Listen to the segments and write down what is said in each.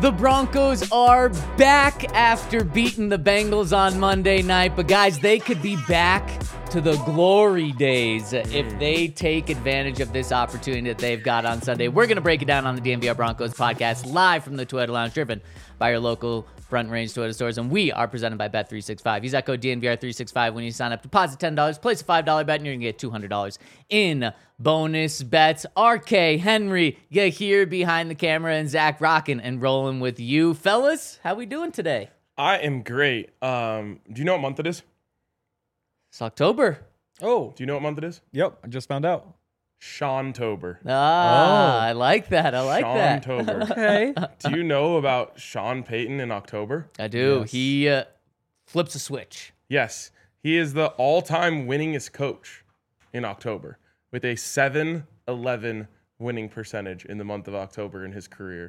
The Broncos are back after beating the Bengals on Monday night. But guys, they could be back to the glory days if they take advantage of this opportunity that they've got on Sunday. We're going to break it down on the DNVR Broncos podcast live from the Toyota Lounge, driven by your local Front Range Toyota stores. And we are presented by Bet365. Use that code DNVR365 when you sign up. Deposit $10, place a $5 bet, and you're going to get $200 in bonus bets. RK, Henry, you're here behind the camera, and Zach rocking and rolling with you. Fellas, how we doing today? I am great. Do you know what month it is? It's October. Oh, Do you know what month it is? yep. I just found out. Sean-tober. I like that. I like that. Sean-tober. Okay. Do you know about Sean Payton in October? I do. Yes. He flips a switch. Yes. He is the all-time winningest coach in October with a 7-11 winning percentage in the month of October in his career.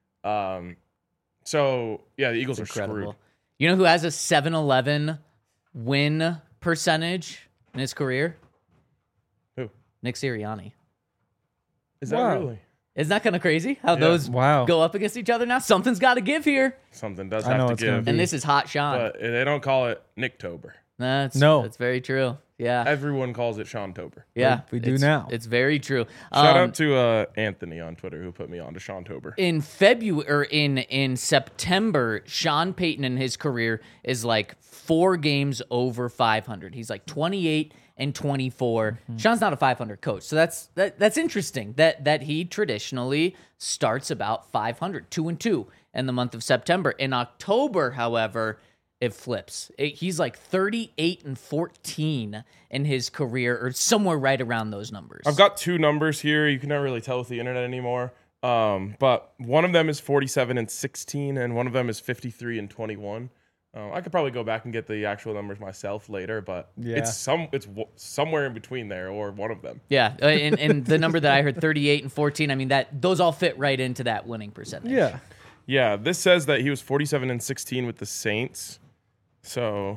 So, yeah, the Eagles are screwed. You know who has a 7-11 win percentage in his career? Who? Nick Sirianni. Is that Wow. really? Isn't that kind of crazy how Yeah. those Wow. go up against each other now? Something's got to give here. Something does I have know to it's gonna give. be. And this is Hot Sean. But they don't call it Nicktober. That's very true. Yeah. Everyone calls it Sean-tober. Yeah. We do it's- now. It's very true. Shout out to Anthony on Twitter who put me on to Sean-tober. In February or in September, Sean Payton in his career is like 4 games over 500. He's like 28-24. Sean's not a 500 coach, so that's interesting that he traditionally starts about 500, 2-2 in the month of September. In October, however, it flips. He's like 38-14 in his career, or somewhere right around those numbers. I've got 2 numbers here. You can never really tell with the internet anymore. But one of them is 47-16, and one of them is 53-21. I could probably go back and get the actual numbers myself later, but Yeah. it's somewhere in between there, or one of them. Yeah, and the number that I heard, 38-14. I mean, those all fit right into that winning percentage. Yeah. Yeah, this says that he was 47-16 with the Saints. So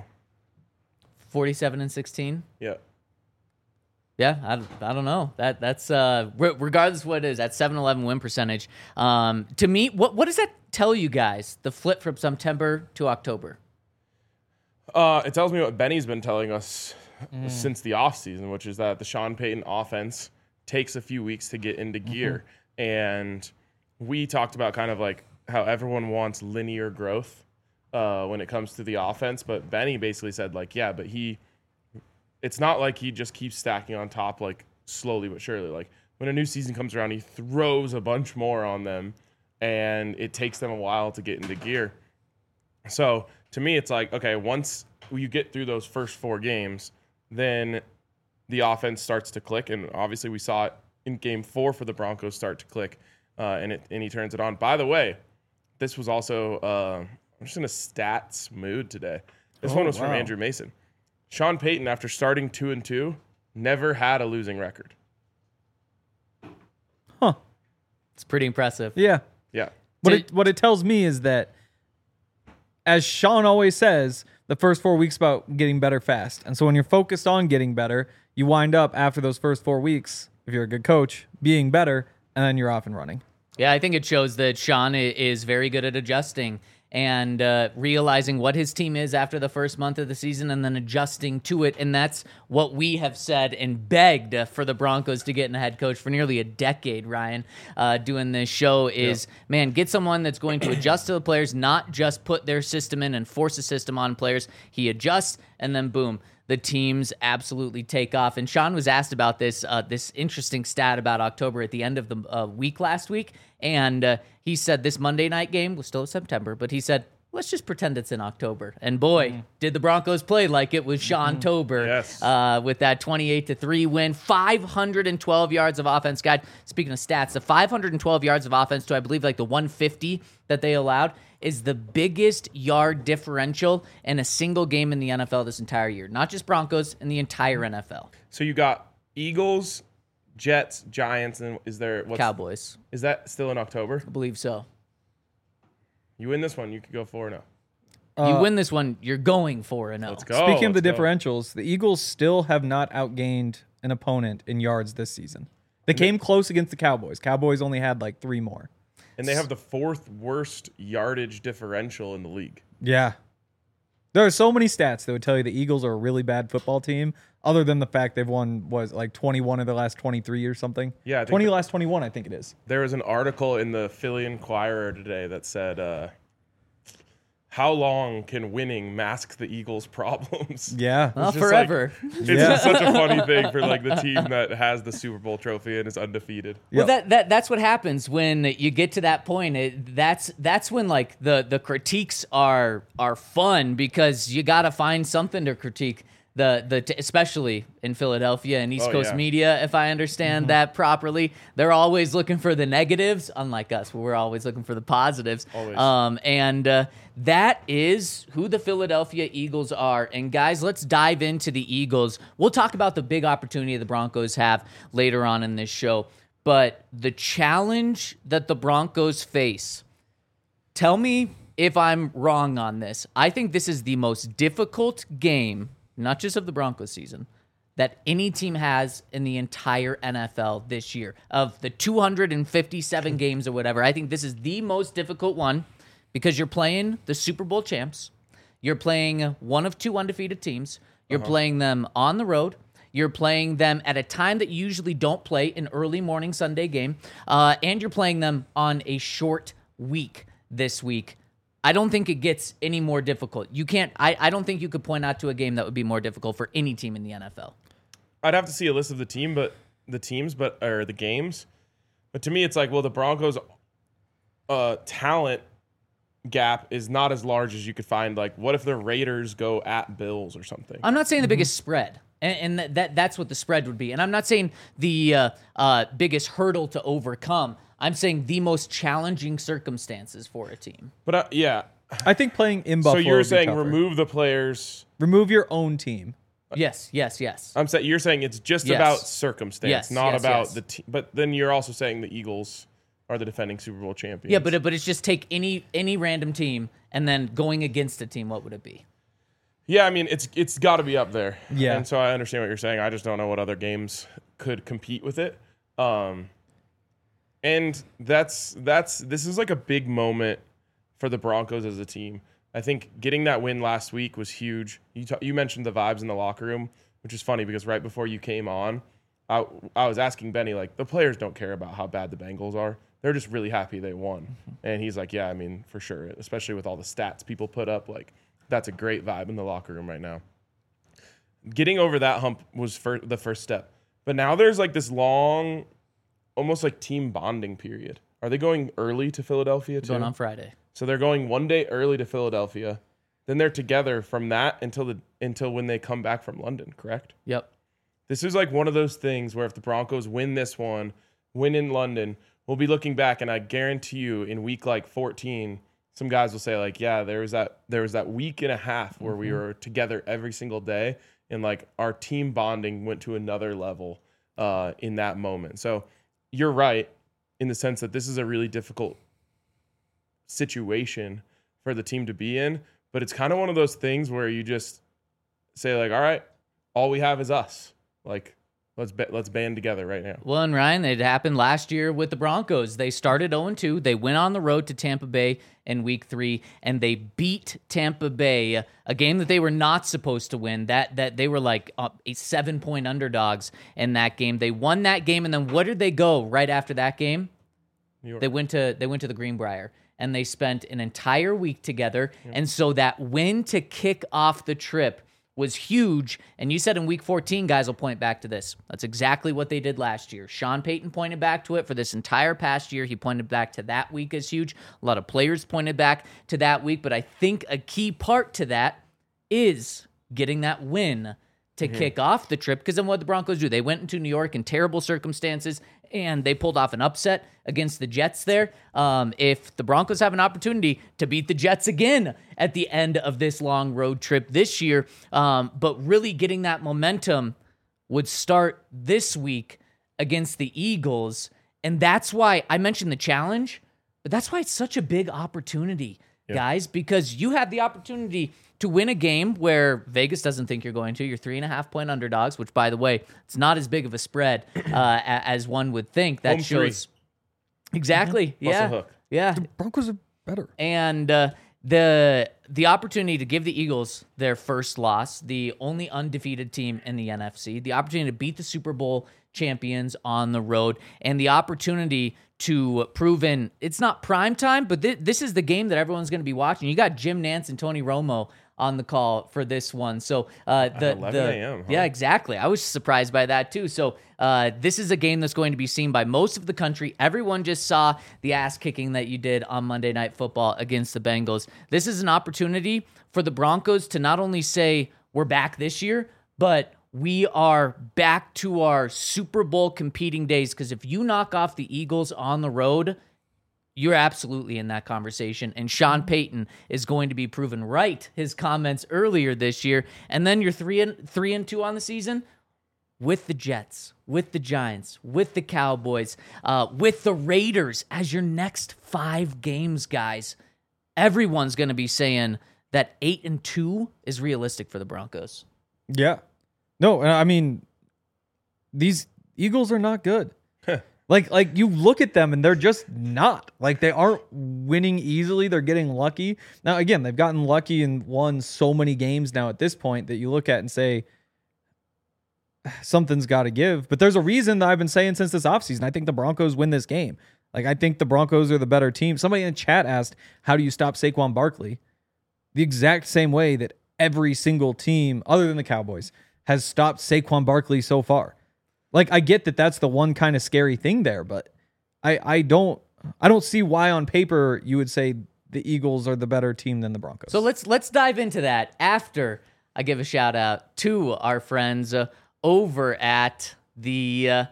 47-16. yeah, Yeah, I don't know. That's regardless of what it is, that 7-11 win percentage. To me, what does that tell you guys? The flip from September to October. it tells me what Benny's been telling us since the offseason, which is that the Sean Payton offense takes a few weeks to get into gear. And we talked about kind of like how everyone wants linear growth when it comes to the offense. But Benny basically said, like, yeah, but it's not like he just keeps stacking on top, like, slowly but surely. Like, when a new season comes around, he throws a bunch more on them, and it takes them a while to get into gear. So, to me, it's like, okay, once you get through those first 4 games, then the offense starts to click. And obviously, we saw it in Game 4 for the Broncos start to click, and he turns it on. By the way, this was also I'm just in a stats mood today. This one was from wow. Andrew Mason. Sean Payton, after starting 2-2, never had a losing record. Huh. It's pretty impressive. Yeah. Yeah. What it tells me is that, as Sean always says, the first 4 weeks about getting better fast. And so when you're focused on getting better, you wind up after those first 4 weeks, if you're a good coach, being better, and then you're off and running. Yeah, I think it shows that Sean is very good at adjusting and realizing what his team is after the first month of the season and then adjusting to it. And that's what we have said and begged for the Broncos to get in a head coach for nearly a decade, Ryan, doing this show is, man, get someone that's going to adjust to the players, not just put their system in and force a system on players. He adjusts, and then boom, the teams absolutely take off. And Sean was asked about this interesting stat about October at the end of the week last week. And he said this Monday night game was still September, but he said, let's just pretend it's in October. And boy, did the Broncos play like it was Sean-tober. Yes. With that 28-3 win, 512 yards of offense. Guys, speaking of stats, the 512 yards of offense to, I believe, like the 150 that they allowed is the biggest yard differential in a single game in the NFL this entire year. Not just Broncos, in the entire NFL. So you got Eagles, Jets, Giants, and Cowboys. Is that still in October? I believe so. You win this one, you could go 4-0. You win this one, you're going 4-0. Let's go. Speaking of the let's go. differentials, the Eagles still have not outgained an opponent in yards this season. They came close against the Cowboys. Cowboys only had like 3 more. and they have the 4th worst yardage differential in the league. Yeah. There are so many stats that would tell you the Eagles are a really bad football team, other than the fact they've won, like 21 of the last 23 or something? Yeah, I think 20 of the last 21, I think it is. There was an article in the Philly Inquirer today that said, how long can winning mask the Eagles' problems? Yeah. Well, just forever. It's just such a funny thing for like the team that has the Super Bowl trophy and is undefeated. Well, that's what happens when you get to that point. That's when like the critiques are fun, because you got to find something to critique. Especially in Philadelphia and East Coast media, if I understand that properly, they're always looking for the negatives, unlike us, where we're always looking for the positives. Always. That is who the Philadelphia Eagles are. And guys, let's dive into the Eagles. We'll talk about the big opportunity the Broncos have later on in this show. But the challenge that the Broncos face, tell me if I'm wrong on this. I think this is the most difficult game, not just of the Broncos season, that any team has in the entire NFL this year. Of the 257 games or whatever, I think this is the most difficult one, because you're playing the Super Bowl champs. You're playing one of 2 undefeated teams. You're playing them on the road. You're playing them at a time that you usually don't play, an early morning Sunday game. And you're playing them on a short week this week. I don't think it gets any more difficult. You can't. I don't think you could point out to a game that would be more difficult for any team in the NFL. I'd have to see a list of the games. But to me, it's like, well, the Broncos' talent gap is not as large as you could find. Like, what if the Raiders go at Bills or something? I'm not saying the biggest spread, and that's what the spread would be. And I'm not saying the biggest hurdle to overcome. I'm saying the most challenging circumstances for a team. But yeah, I think playing in Buffalo. So you're would be saying tougher. remove the players. Remove your own team. Yes. I'm saying you're saying it's just Yes. about circumstance, Yes, not yes, about yes. the team. But then you're also saying the Eagles are the defending Super Bowl champions. Yeah, but it's just take any random team and then going against a team. What would it be? Yeah, I mean it's got to be up there. Yeah. And so I understand what you're saying. I just don't know what other games could compete with it. And this is like a big moment for the Broncos as a team. I think getting that win last week was huge. You mentioned the vibes in the locker room, which is funny because right before you came on, I was asking Benny, like, the players don't care about how bad the Bengals are. They're just really happy they won. And he's like, yeah, I mean, for sure, especially with all the stats people put up, like, that's a great vibe in the locker room right now. Getting over that hump was the first step. But now there's like this long, almost like team bonding period. Are they going early to Philadelphia too? Going on Friday. So they're going one day early to Philadelphia. Then they're together from that until when they come back from London, correct? Yep. This is like one of those things where if the Broncos win this one, win in London, we'll be looking back, and I guarantee you in week like 14, some guys will say like, yeah, there was that week and a half where we were together every single day, and like our team bonding went to another level in that moment. So you're right in the sense that this is a really difficult situation for the team to be in, but it's kind of one of those things where you just say like, all right, all we have is us. Like, let's band together right now. Well, and Ryan, it happened last year with the Broncos. They started 0-2. They went on the road to Tampa Bay in week 3, and they beat Tampa Bay, a game that they were not supposed to win. That they were like a 7-point underdogs in that game. They won that game, and then what did they go right after that game? New York. They went to the Greenbrier, and they spent an entire week together. And so that win to kick off the trip was huge. And you said in week 14, guys will point back to this. That's exactly what they did last year. Sean Payton pointed back to it for this entire past year. He pointed back to that week as huge. A lot of players pointed back to that week. But I think a key part to that is getting that win to kick off the trip. Because then what the Broncos do? They went into New York in terrible circumstances, and they pulled off an upset against the Jets there. If the Broncos have an opportunity to beat the Jets again at the end of this long road trip this year, but really getting that momentum would start this week against the Eagles. And that's why I mentioned the challenge, but that's why it's such a big opportunity, guys, because you have the opportunity to win a game where Vegas doesn't think you're going to. You're 3.5-point underdogs, which, by the way, it's not as big of a spread as one would think. That Home shows exactly, Plus a yeah, hook. Yeah. The Broncos are better. And the opportunity to give the Eagles their first loss, the only undefeated team in the NFC, the opportunity to beat the Super Bowl champions on the road, and the opportunity to prove in, it's not prime time, but this is the game that everyone's going to be watching. You got Jim Nantz and Tony Romo on the call for this one. So At 11 a.m., huh? Yeah, exactly. I was surprised by that too. So this is a game that's going to be seen by most of the country. Everyone just saw the ass kicking that you did on Monday Night Football against the Bengals. This is an opportunity for the Broncos to not only say we're back this year, but we are back to our Super Bowl competing days. Because if you knock off the Eagles on the road, you're absolutely in that conversation. And Sean Payton is going to be proven right. His comments earlier this year. And then you're 3-2 on the season with the Jets, with the Giants, with the Cowboys, with the Raiders as your next 5 games, guys. Everyone's going to be saying that 8-2 is realistic for the Broncos. Yeah. No, I mean, these Eagles are not good. Like you look at them and they're just not. Like they aren't winning easily. They're getting lucky. Now, again, they've gotten lucky and won so many games now at this point that you look at and say, something's got to give. But there's a reason that I've been saying since this offseason, I think the Broncos win this game. Like, I think the Broncos are the better team. Somebody in the chat asked, how do you stop Saquon Barkley? The exact same way that every single team, other than the Cowboys, has stopped Saquon Barkley so far. Like, I get that that's the one kind of scary thing there, but I don't see why on paper you would say the Eagles are the better team than the Broncos. So let's dive into that after I give a shout out to our friends over at the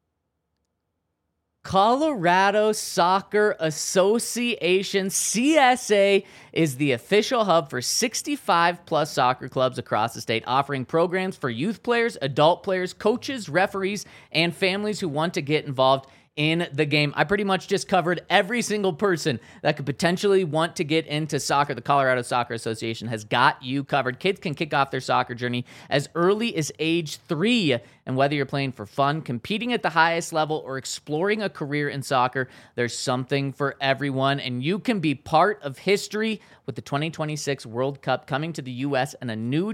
Colorado Soccer Association. CSA is the official hub for 65-plus soccer clubs across the state, offering programs for youth players, adult players, coaches, referees, and families who want to get involved in the game. I pretty much just covered every single person that could potentially want to get into soccer. The Colorado Soccer Association has got you covered. Kids can kick off their soccer journey as early as age 3. And whether you're playing for fun, competing at the highest level, or exploring a career in soccer, there's something for everyone. And you can be part of history with the 2026 World Cup coming to the U.S. and a new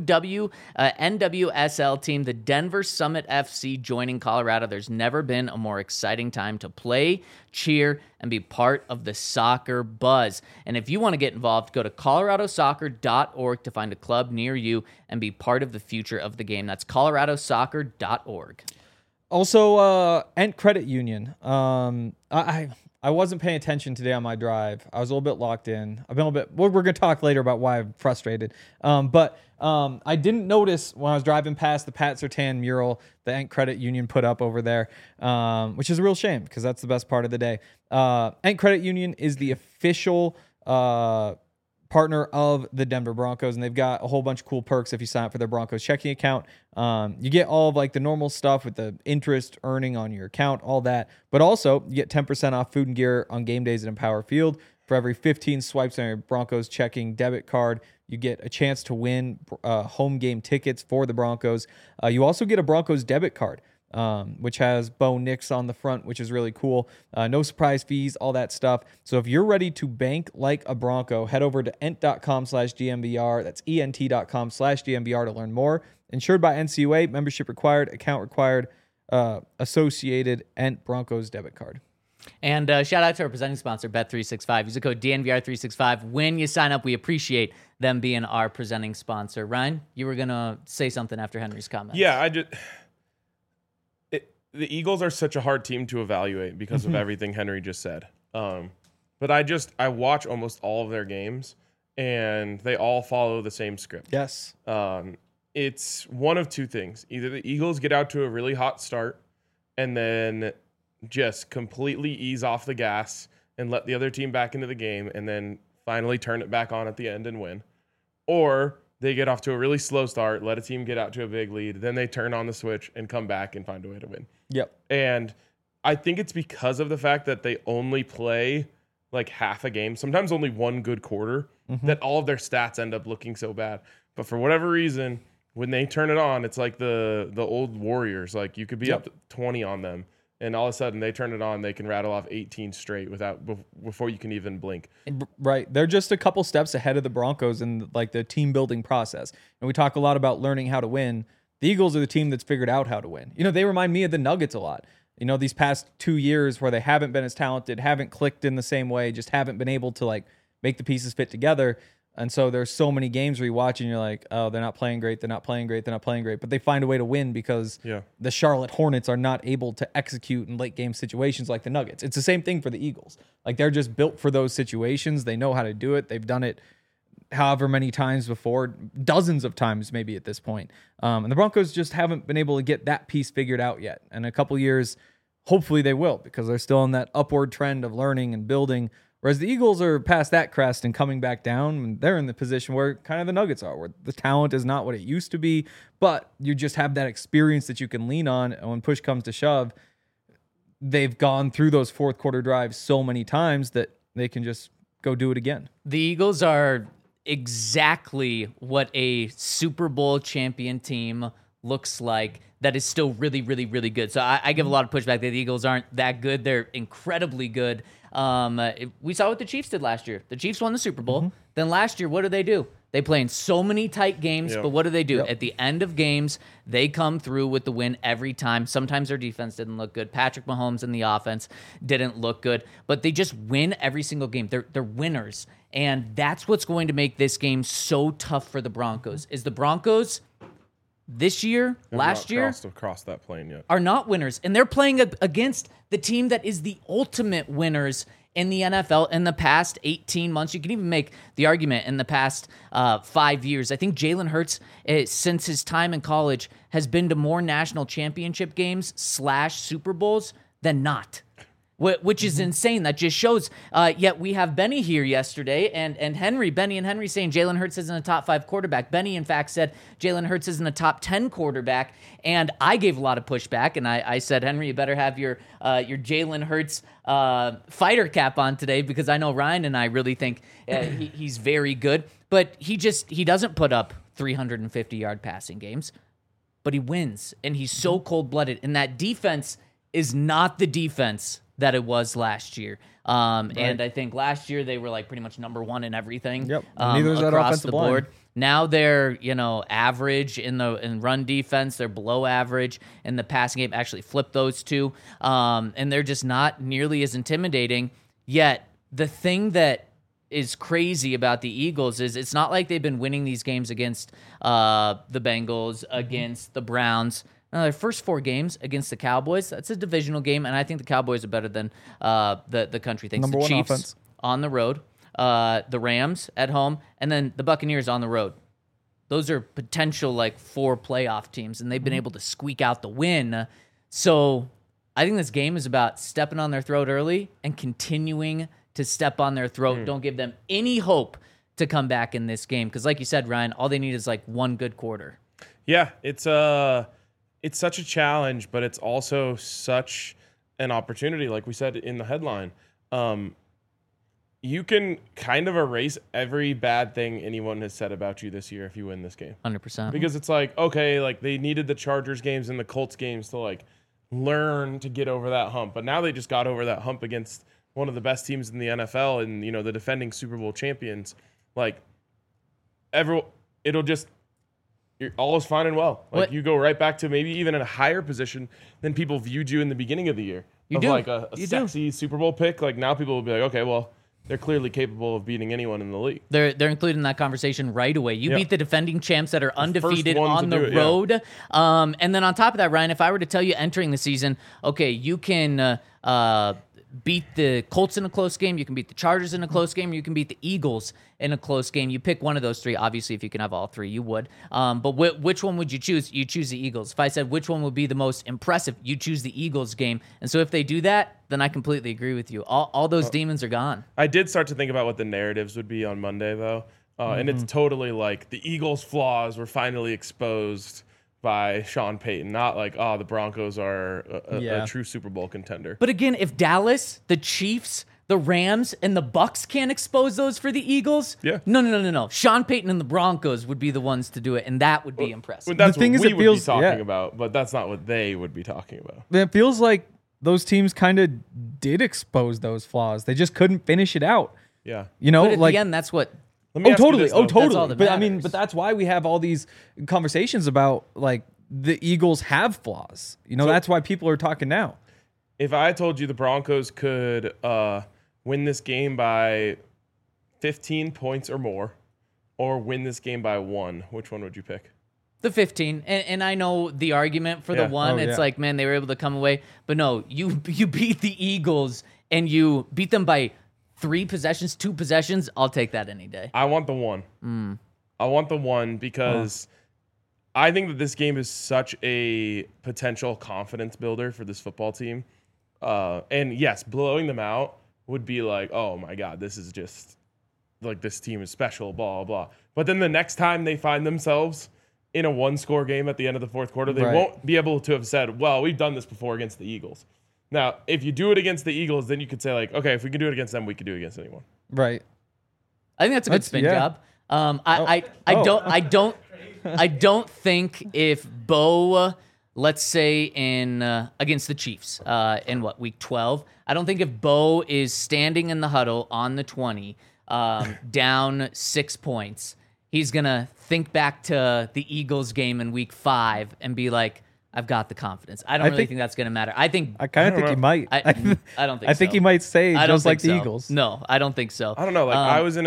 NWSL team, the Denver Summit FC, joining Colorado. There's never been a more exciting time to play, cheer, and be part of the soccer buzz. And if you want to get involved, go to coloradosoccer.org to find a club near you and be part of the future of the game. That's coloradosoccer.org. Also, Ent Credit Union. I wasn't paying attention today on my drive. I was a little bit locked in. I've been a little bit. We're going to talk later about why I'm frustrated. But I didn't notice when I was driving past the Pat Surtain mural the Ent Credit Union put up over there, which is a real shame because that's the best part of the day. Ent Credit Union is the official partner of the Denver Broncos, and they've got a whole bunch of cool perks if you sign up for their Broncos checking account. You get all of like the normal stuff with the interest earning on your account, all that, but also you get 10% off food and gear on game days at Empower Field. For every 15 swipes on your Broncos checking debit card, you get a chance to win home game tickets for the Broncos. You also get a Broncos debit card, which has Bo Nix on the front, which is really cool. No surprise fees, all that stuff. So if you're ready to bank like a Bronco, head over to ent.com/DMVR. That's ent.com/DMVR to learn more. Insured by NCUA, membership required, account required, associated Ent Broncos debit card. And shout out to our presenting sponsor, Bet365. Use the code DNVR365 when you sign up. We appreciate them being our presenting sponsor. Ryan, you were going to say something after Henry's comment. Yeah, the Eagles are such a hard team to evaluate because of everything Henry just said. But I watch almost all of their games, and they all follow the same script. Yes. It's one of two things. Either the Eagles get out to a really hot start and then just completely ease off the gas and let the other team back into the game and then finally turn it back on at the end and win. Or they get off to a really slow start, let a team get out to a big lead, then they turn on the switch and come back and find a way to win. Yep. And I think it's because of the fact that they only play like half a game, sometimes only one good quarter, that all of their stats end up looking so bad. But for whatever reason, when they turn it on, it's like the old Warriors. Like you could be up to 20 on them and all of a sudden they turn it on, they can rattle off 18 straight before you can even blink. Right. They're just a couple steps ahead of the Broncos in like the team building process. And we talk a lot about learning how to win. The Eagles are the team that's figured out how to win. They remind me of the Nuggets a lot. These past 2 years where they haven't been as talented, haven't clicked in the same way, just haven't been able to like make the pieces fit together. And so there's so many games where you watch and you're like, oh, they're not playing great. They're not playing great. They're not playing great. But they find a way to win because the Charlotte Hornets are not able to execute in late game situations like the Nuggets. It's the same thing for the Eagles. Like they're just built for those situations. They know how to do it. They've done it however many times before, dozens of times maybe at this point. And the Broncos just haven't been able to get that piece figured out yet. And a couple years, hopefully they will, because they're still on that upward trend of learning and building. Whereas the Eagles are past that crest and coming back down, and they're in the position where kind of the Nuggets are, where the talent is not what it used to be, but you just have that experience that you can lean on. And when push comes to shove, they've gone through those fourth quarter drives so many times that they can just go do it again. The Eagles are exactly what a Super Bowl champion team looks like that is still really, really, really good. So I give a lot of pushback that the Eagles aren't that good. They're incredibly good. We saw what the Chiefs did last year. The Chiefs won the Super Bowl. Then last year, what do? They play in so many tight games, but what do? At the end of games, they come through with the win every time. Sometimes their defense didn't look good. Patrick Mahomes and the offense didn't look good, but they just win every single game. They're winners, and that's what's going to make this game so tough for the Broncos. Is the Broncos this year, last year, crossed that plane yet, are not winners, and they're playing against the team that is the ultimate winners in the NFL in the past 18 months. You can even make the argument in the past 5 years. I think Jalen Hurts, since his time in college, has been to more national championship games / Super Bowls than not, which is insane. That just shows. Yet we have Benny here yesterday, and Benny and Henry saying Jalen Hurts isn't a top 5 quarterback. Benny, in fact, said Jalen Hurts isn't a top 10 quarterback, and I gave a lot of pushback, and I said, Henry, you better have your Jalen Hurts fighter cap on today, because I know Ryan and I really think he's very good, but he doesn't put up 350-yard passing games, but he wins, and he's so cold-blooded, and that defense is not the defense that it was last year. And I think last year they were like pretty much number one in everything. Yep. Neither is that across offensive the board. line. Now they're, average in run defense. They're below average in the passing game. Actually flipped those two. And they're just not nearly as intimidating. Yet the thing that is crazy about the Eagles is it's not like they've been winning these games against the Bengals, against the Browns. Their first 4 games against the Cowboys, that's a divisional game, and I think the Cowboys are better than the country thinks. Number the one Chiefs offense. On the road, the Rams at home, and then the Buccaneers on the road. Those are potential 4 playoff teams, and they've been able to squeak out the win. So I think this game is about stepping on their throat early and continuing to step on their throat. Don't give them any hope to come back in this game, because like you said, Ryan, all they need is one good quarter. Yeah, it's such a challenge, but it's also such an opportunity. Like we said in the headline, you can kind of erase every bad thing anyone has said about you this year if you win this game. 100%. Because it's okay, they needed the Chargers games and the Colts games to learn to get over that hump. But now they just got over that hump against one of the best teams in the NFL and, the defending Super Bowl champions. All is fine and well. You go right back to maybe even in a higher position than people viewed you in the beginning of the year. You A sexy Super Bowl pick. Now people will be like, okay, well, they're clearly capable of beating anyone in the league. They're included in that conversation right away. You beat the defending champs that are undefeated on the road. And then on top of that, Ryan, if I were to tell you entering the season, okay, you can beat the Colts in a close game, you can beat the Chargers in a close game, you can beat the Eagles in a close game. You pick one of those 3. Obviously, if you can have all 3, you would. But which one would you choose? You choose the Eagles. If I said which one would be the most impressive, you choose the Eagles game. And so if they do that, then I completely agree with you. All those demons are gone. I did start to think about what the narratives would be on Monday, though. And it's totally the Eagles' flaws were finally exposed by Sean Payton, not the Broncos are a true Super Bowl contender. But again, if Dallas, the Chiefs, the Rams, and the Bucks can't expose those for the Eagles, no. Sean Payton and the Broncos would be the ones to do it, and that would be impressive. That's what we would be talking about, but that's not what they would be talking about. It feels like those teams kind of did expose those flaws. They just couldn't finish it out. Yeah. You know, But at like the end, that's what. Let me oh ask you totally, this, oh though. totally. That's all that But I mean, matters. but that's why we have all these conversations about like the Eagles have flaws. You know, So- that's why people are talking now. If I told you the Broncos could win this game by 15 points or more, or win this game by 1, which one would you pick? The 15, and I know the argument for the Yeah. one. Oh, It's yeah. like, man, they were able to come away, but no, you beat the Eagles and you beat them by 3 possessions, 2 possessions. I'll take that any day. I want the 1. I want the 1 because I think that this game is such a potential confidence builder for this football team. And yes, blowing them out would be like, oh my God, this is just like this team is special, blah, blah, blah. But then the next time they find themselves in a 1-score game at the end of the fourth quarter, they Right. won't be able to have said, well, we've done this before against the Eagles. Now, if you do it against the Eagles, then you could say like, okay, if we can do it against them, we can do it against anyone. Right. I think that's a good That's- spin yeah. job. Oh. I don't think if Bo, let's say in against the Chiefs in week 12, I don't think if Bo is standing in the huddle on the 20, down 6 points, he's gonna think back to the Eagles game in week 5 and be like, I've got the confidence. I don't really think that's gonna matter. I think I kind of think he might. I don't think I think so. he might say I don't just like think the so. Eagles. No, I don't think so. I don't know. Like I was in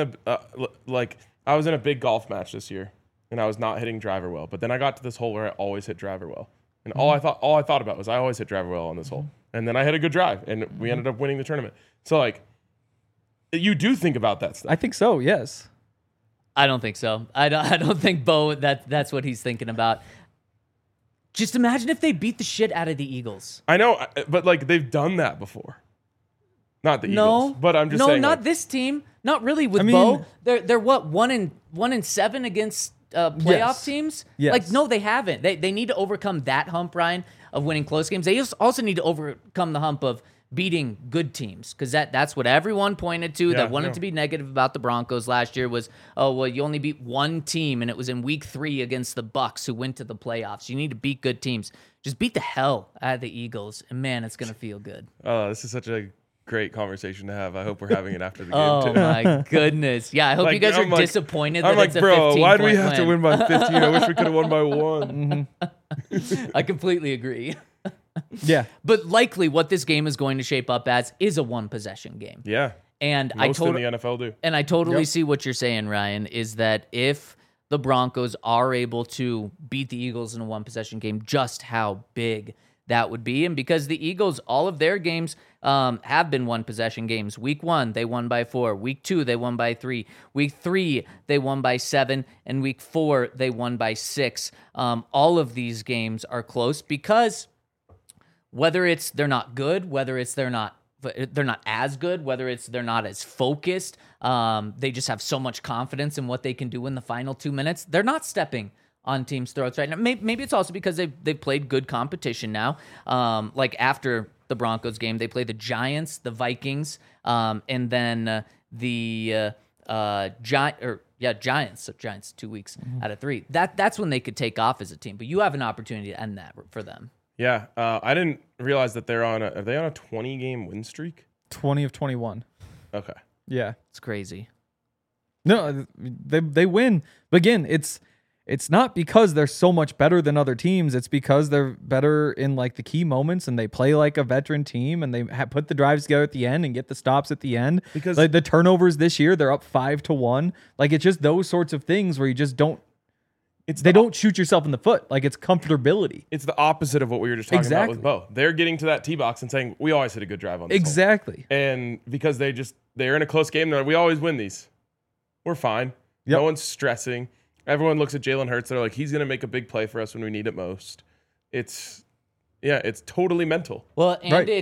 a big golf match this year, and I was not hitting driver well. But then I got to this hole where I always hit driver well, and all I thought about was I always hit driver well on this hole. And then I hit a good drive, and we ended up winning the tournament. So like, you do think about that stuff. I think so. Yes. I don't think so. I don't think Bo that's what he's thinking about. Just imagine if they beat the shit out of the Eagles. I know, but like they've done that before. Not the No, Eagles, but I'm just no, saying. not like, this team. Not really with I mean- Bo. They're what 1-7 against playoff Yes. teams. Yes. Like no, they haven't. They need to overcome that hump, Ryan, of winning close games. They also need to overcome the hump of beating good teams because that's what everyone pointed to that wanted to be negative about the Broncos last year was, oh well, you only beat one team and it was in week 3 against the Bucks who went to the playoffs. You need to beat good teams. Just beat the hell out of the Eagles, and man, it's gonna feel good. Oh, this is such a great conversation to have. I hope we're having it after the game Oh too. my goodness! Yeah, I hope Like, you guys are I'm like- disappointed. I'm that like, it's a bro, 15 why do we point have to win by 15? I wish we could have won by 1. I completely agree. Yeah. But likely, what this game is going to shape up as is a 1-possession game. Yeah, And most in the NFL do. And I totally see what you're saying, Ryan, is that if the Broncos are able to beat the Eagles in a 1-possession game, just how big that would be. And because the Eagles, all of their games have been 1-possession games. Week 1, they won by 4. Week 2, they won by 3. Week 3, they won by 7. And week 4, they won by 6. All of these games are close because whether it's they're not good, whether it's they're not as good, whether it's they're not as focused, they just have so much confidence in what they can do in the final 2 minutes. They're not stepping on teams' throats right now. Maybe it's also because they've played good competition now. Like after the Broncos game, they played the Giants, the Vikings, and then the Giants. So Giants 2 weeks out of 3. That's when they could take off as a team. But you have an opportunity to end that for them. Yeah, I didn't realize that are they on a 20-game win streak? 20 of 21. Okay. Yeah. It's crazy. No, they win. But again, it's not because they're so much better than other teams. It's because they're better in like the key moments and they play like a veteran team and they put the drives together at the end and get the stops at the end. Because like the turnovers this year, they're up 5-1. Like it's just those sorts of things where you just don't. They don't shoot yourself in the foot. Like it's comfortability. It's the opposite of what we were just talking about with Exactly. Bo. They're getting to that tee box and saying, we always hit a good drive on this hole." Exactly. And because they're in a close game, they're like, we always win these. We're fine. Yep. No one's stressing. Everyone looks at Jalen Hurts. They're like, he's going to make a big play for us when we need it most. It's totally mental. Well, and Right.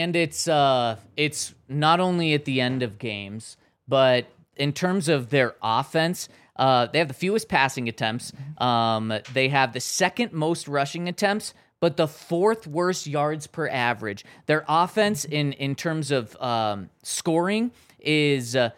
it's not only at the end of games, but in terms of their offense, they have the fewest passing attempts. They have the second most rushing attempts, but the 4th worst yards per average. Their offense in terms of scoring is the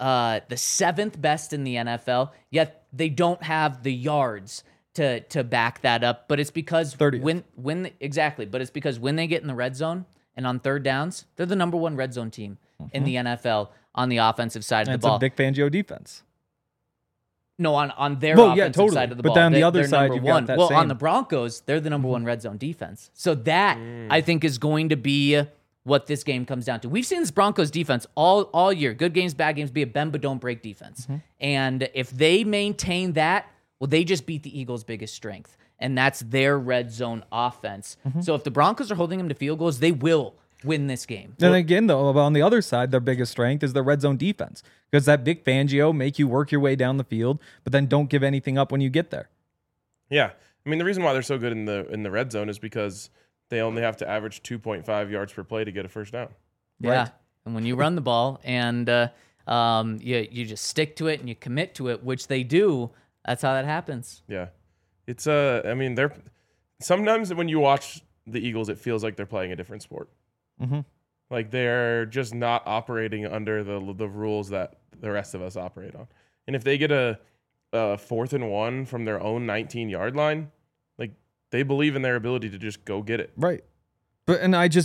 7th best in the NFL. Yet they don't have the yards to back that up. But it's because 30th. when exactly. But it's because when they get in the red zone, And on third downs, they're the number one red zone team in the NFL on the offensive side of the ball. It's a Vic Fangio defense. No, on their offensive side of the ball. But then on the other they're side, number you've one. got that Well, same. on the Broncos, they're the number one red zone defense. So that, I think, is going to be what this game comes down to. We've seen this Broncos defense all year. Good games, bad games, be a bend but don't break defense. And if they maintain that, well, they just beat the Eagles' biggest strength. And that's their red zone offense. So if the Broncos are holding them to field goals, they will win this game. Then again, though, on the other side, their biggest strength is their red zone defense, because that Vic Fangio make you work your way down the field, but then don't give anything up when you get there. Yeah, I mean the reason why they're so good in the red zone is because they only have to average 2.5 yards per play to get a first down. Yeah, Right. and when you run the ball and you just stick to it and you commit to it, which they do, that's how that happens. Yeah, it's I mean they're sometimes when you watch the Eagles, it feels like they're playing a different sport. Like they're just not operating under the rules that the rest of us operate on. And if they get a 4th and 1 from their own 19-yard line, like they believe in their ability to just go get it. Right. And I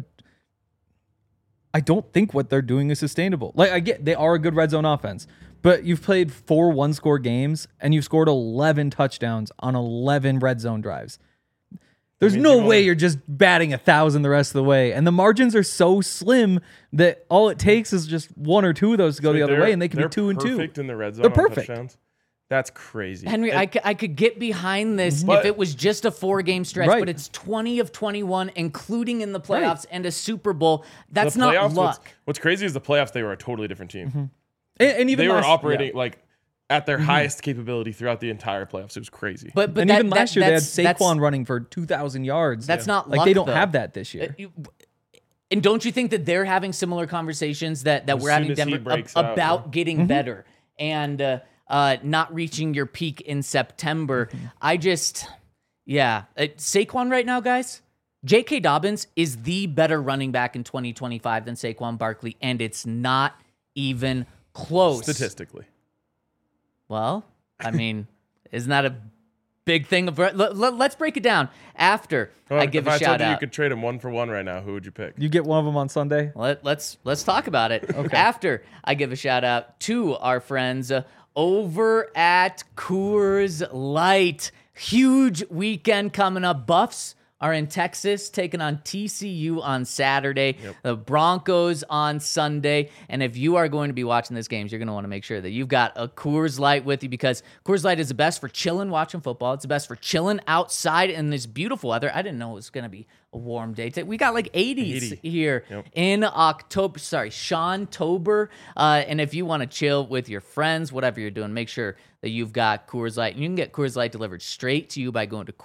don't think what they're doing is sustainable. Like, I get they are a good red zone offense, but you've played 4 one-score games and you've scored 11 touchdowns on 11 red zone drives. There's no way you're just batting 1,000 the rest of the way. And the margins are so slim that all it takes is just 1 or 2 of those to go the other way, and they can be 2 and 2. They're perfect in the red zone. They're on perfect. Touchdowns. That's crazy. Henry, I could get behind this But- if it was just a 4-game stretch, Right. but it's 20 of 21, including in the playoffs Right. and a Super Bowl. That's The not playoffs, luck. What's crazy is the playoffs, they were a totally different team. And even They were last, operating yeah. like at their highest capability throughout the entire playoffs. It was crazy. But And even last year, they had that's- Saquon running for 2,000 yards. That's not like luck, they don't though. have that this year. And don't you think that they're having similar conversations that we're soon having as he Denver breaks out, about getting better and not reaching your peak in September? I just, Saquon right now, guys. J.K. Dobbins is the better running back in 2025 than Saquon Barkley, and it's not even close. Statistically. Well, I mean, isn't that a big thing? Let's break it down. After I give if a I shout told you out. you could trade him 1 for 1 right now, who would you pick? You get one of them on Sunday. Let's talk about it. After I give a shout out to our friends over at Coors Light. Huge weekend coming up. Buffs are in Texas taking on TCU on Saturday. The Broncos on Sunday. And if you are going to be watching this game, you're going to want to make sure that you've got a Coors Light with you, because Coors Light is the best for chilling watching football. It's the best for chilling outside in this beautiful weather. I didn't know it was going to be a warm day today. We got like 80s here in October. Sorry, Sean-tober. And if you want to chill with your friends, whatever you're doing, make sure that you've got Coors Light. And you can get Coors Light delivered straight to you by going to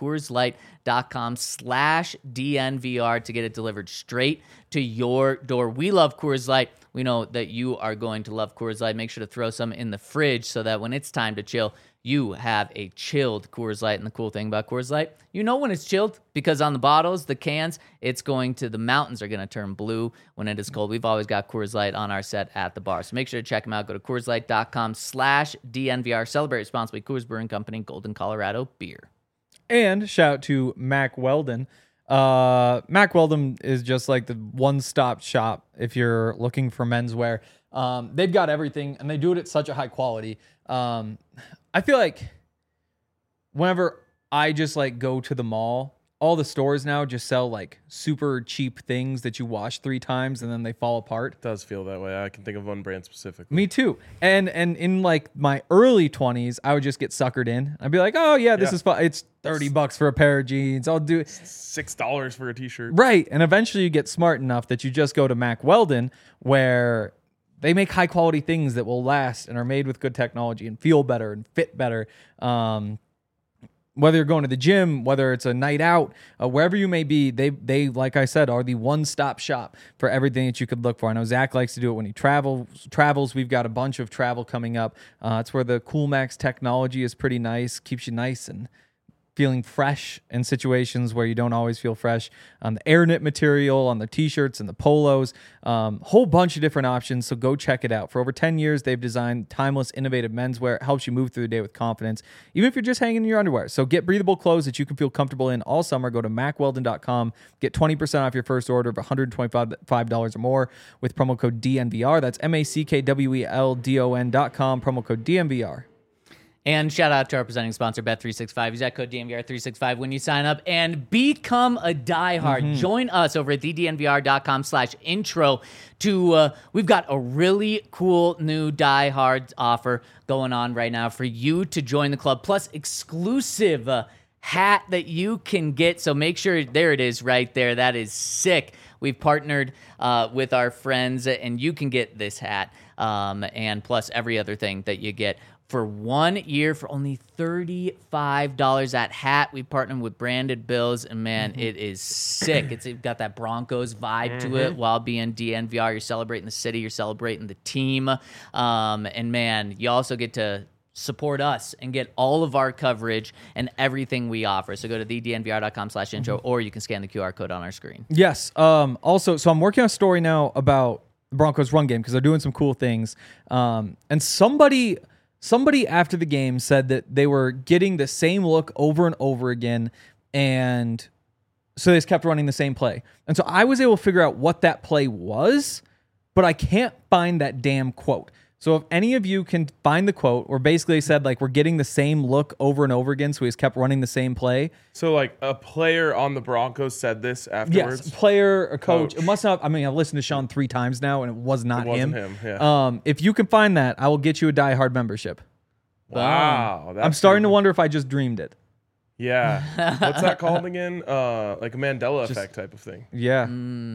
CoorsLight.com/DNVR to get it delivered straight to your door. We love Coors Light. We know that you are going to love Coors Light. Make sure to throw some in the fridge so that when it's time to chill, you have a chilled Coors Light. And the cool thing about Coors Light, you know when it's chilled, because on the bottles, the cans, the mountains are going to turn blue when it is cold. We've always got Coors Light on our set at the bar. So make sure to check them out. Go to CoorsLight.com/DNVR. Celebrate responsibly. Coors Brewing Company, Golden, Colorado beer. And shout out to Mack Weldon. Mack Weldon is just like the one-stop shop if you're looking for menswear. They've got everything, and they do it at such a high quality. I feel like whenever I just like go to the mall, all the stores now just sell like super cheap things that you wash 3 times and then they fall apart. It does feel that way. I can think of one brand specifically. Me too. And in like my early 20s, I would just get suckered in. I'd be like, oh yeah, this is fun. It's $30 for a pair of jeans. I'll do it. $6 for a t-shirt. Right. And eventually you get smart enough that you just go to Mack Weldon, where they make high quality things that will last and are made with good technology and feel better and fit better. Whether you're going to the gym, whether it's a night out, wherever you may be, they like I said, are the one-stop shop for everything that you could look for. I know Zach likes to do it when he travels. We've got a bunch of travel coming up. It's where the Cool Max technology is pretty nice, keeps you nice and feeling fresh in situations where you don't always feel fresh. On the air knit material, on the t-shirts and the polos, whole bunch of different options. So go check it out. For over 10 years, they've designed timeless, innovative menswear. It helps you move through the day with confidence, even if you're just hanging in your underwear. So get breathable clothes that you can feel comfortable in all summer. Go to MacWeldon.com. Get 20% off your first order of $125 or more with promo code DNVR. That's MACKWELDON.com, promo code DNVR. And shout out to our presenting sponsor, Bet365. Use that code DNVR365 when you sign up and become a diehard. Join us over at thednvr.com/intro to, we've got a really cool new diehard offer going on right now for you to join the club, plus exclusive hat that you can get. So make sure, there it is right there. That is sick. We've partnered with our friends, and you can get this hat and plus every other thing that you get for 1 year for only $35. That hat, we partnered with Branded Bills, and man, it is sick. It's got that Broncos vibe to it while being DNVR. You're celebrating the city, you're celebrating the team, and man, you also get to support us and get all of our coverage and everything we offer. So go to thednvr.com/intro, or you can scan the QR code on our screen. Yes. Also, so I'm working on a story now about the Broncos run game because they're doing some cool things. And somebody after the game said that they were getting the same look over and over again, and so they just kept running the same play. And so I was able to figure out what that play was, but I can't find that damn quote. So if any of you can find the quote, or basically said like we're getting the same look over and over again, so we just kept running the same play. So like a player on the Broncos said this afterwards? Yes, player or coach. It must not. I mean, I've listened to Sean 3 times now, and it was not him. It wasn't him. Yeah. If you can find that, I will get you a diehard membership. Wow. I'm starting to wonder if I just dreamed it. Yeah. What's that called again? Like a Mandela effect type of thing. Yeah.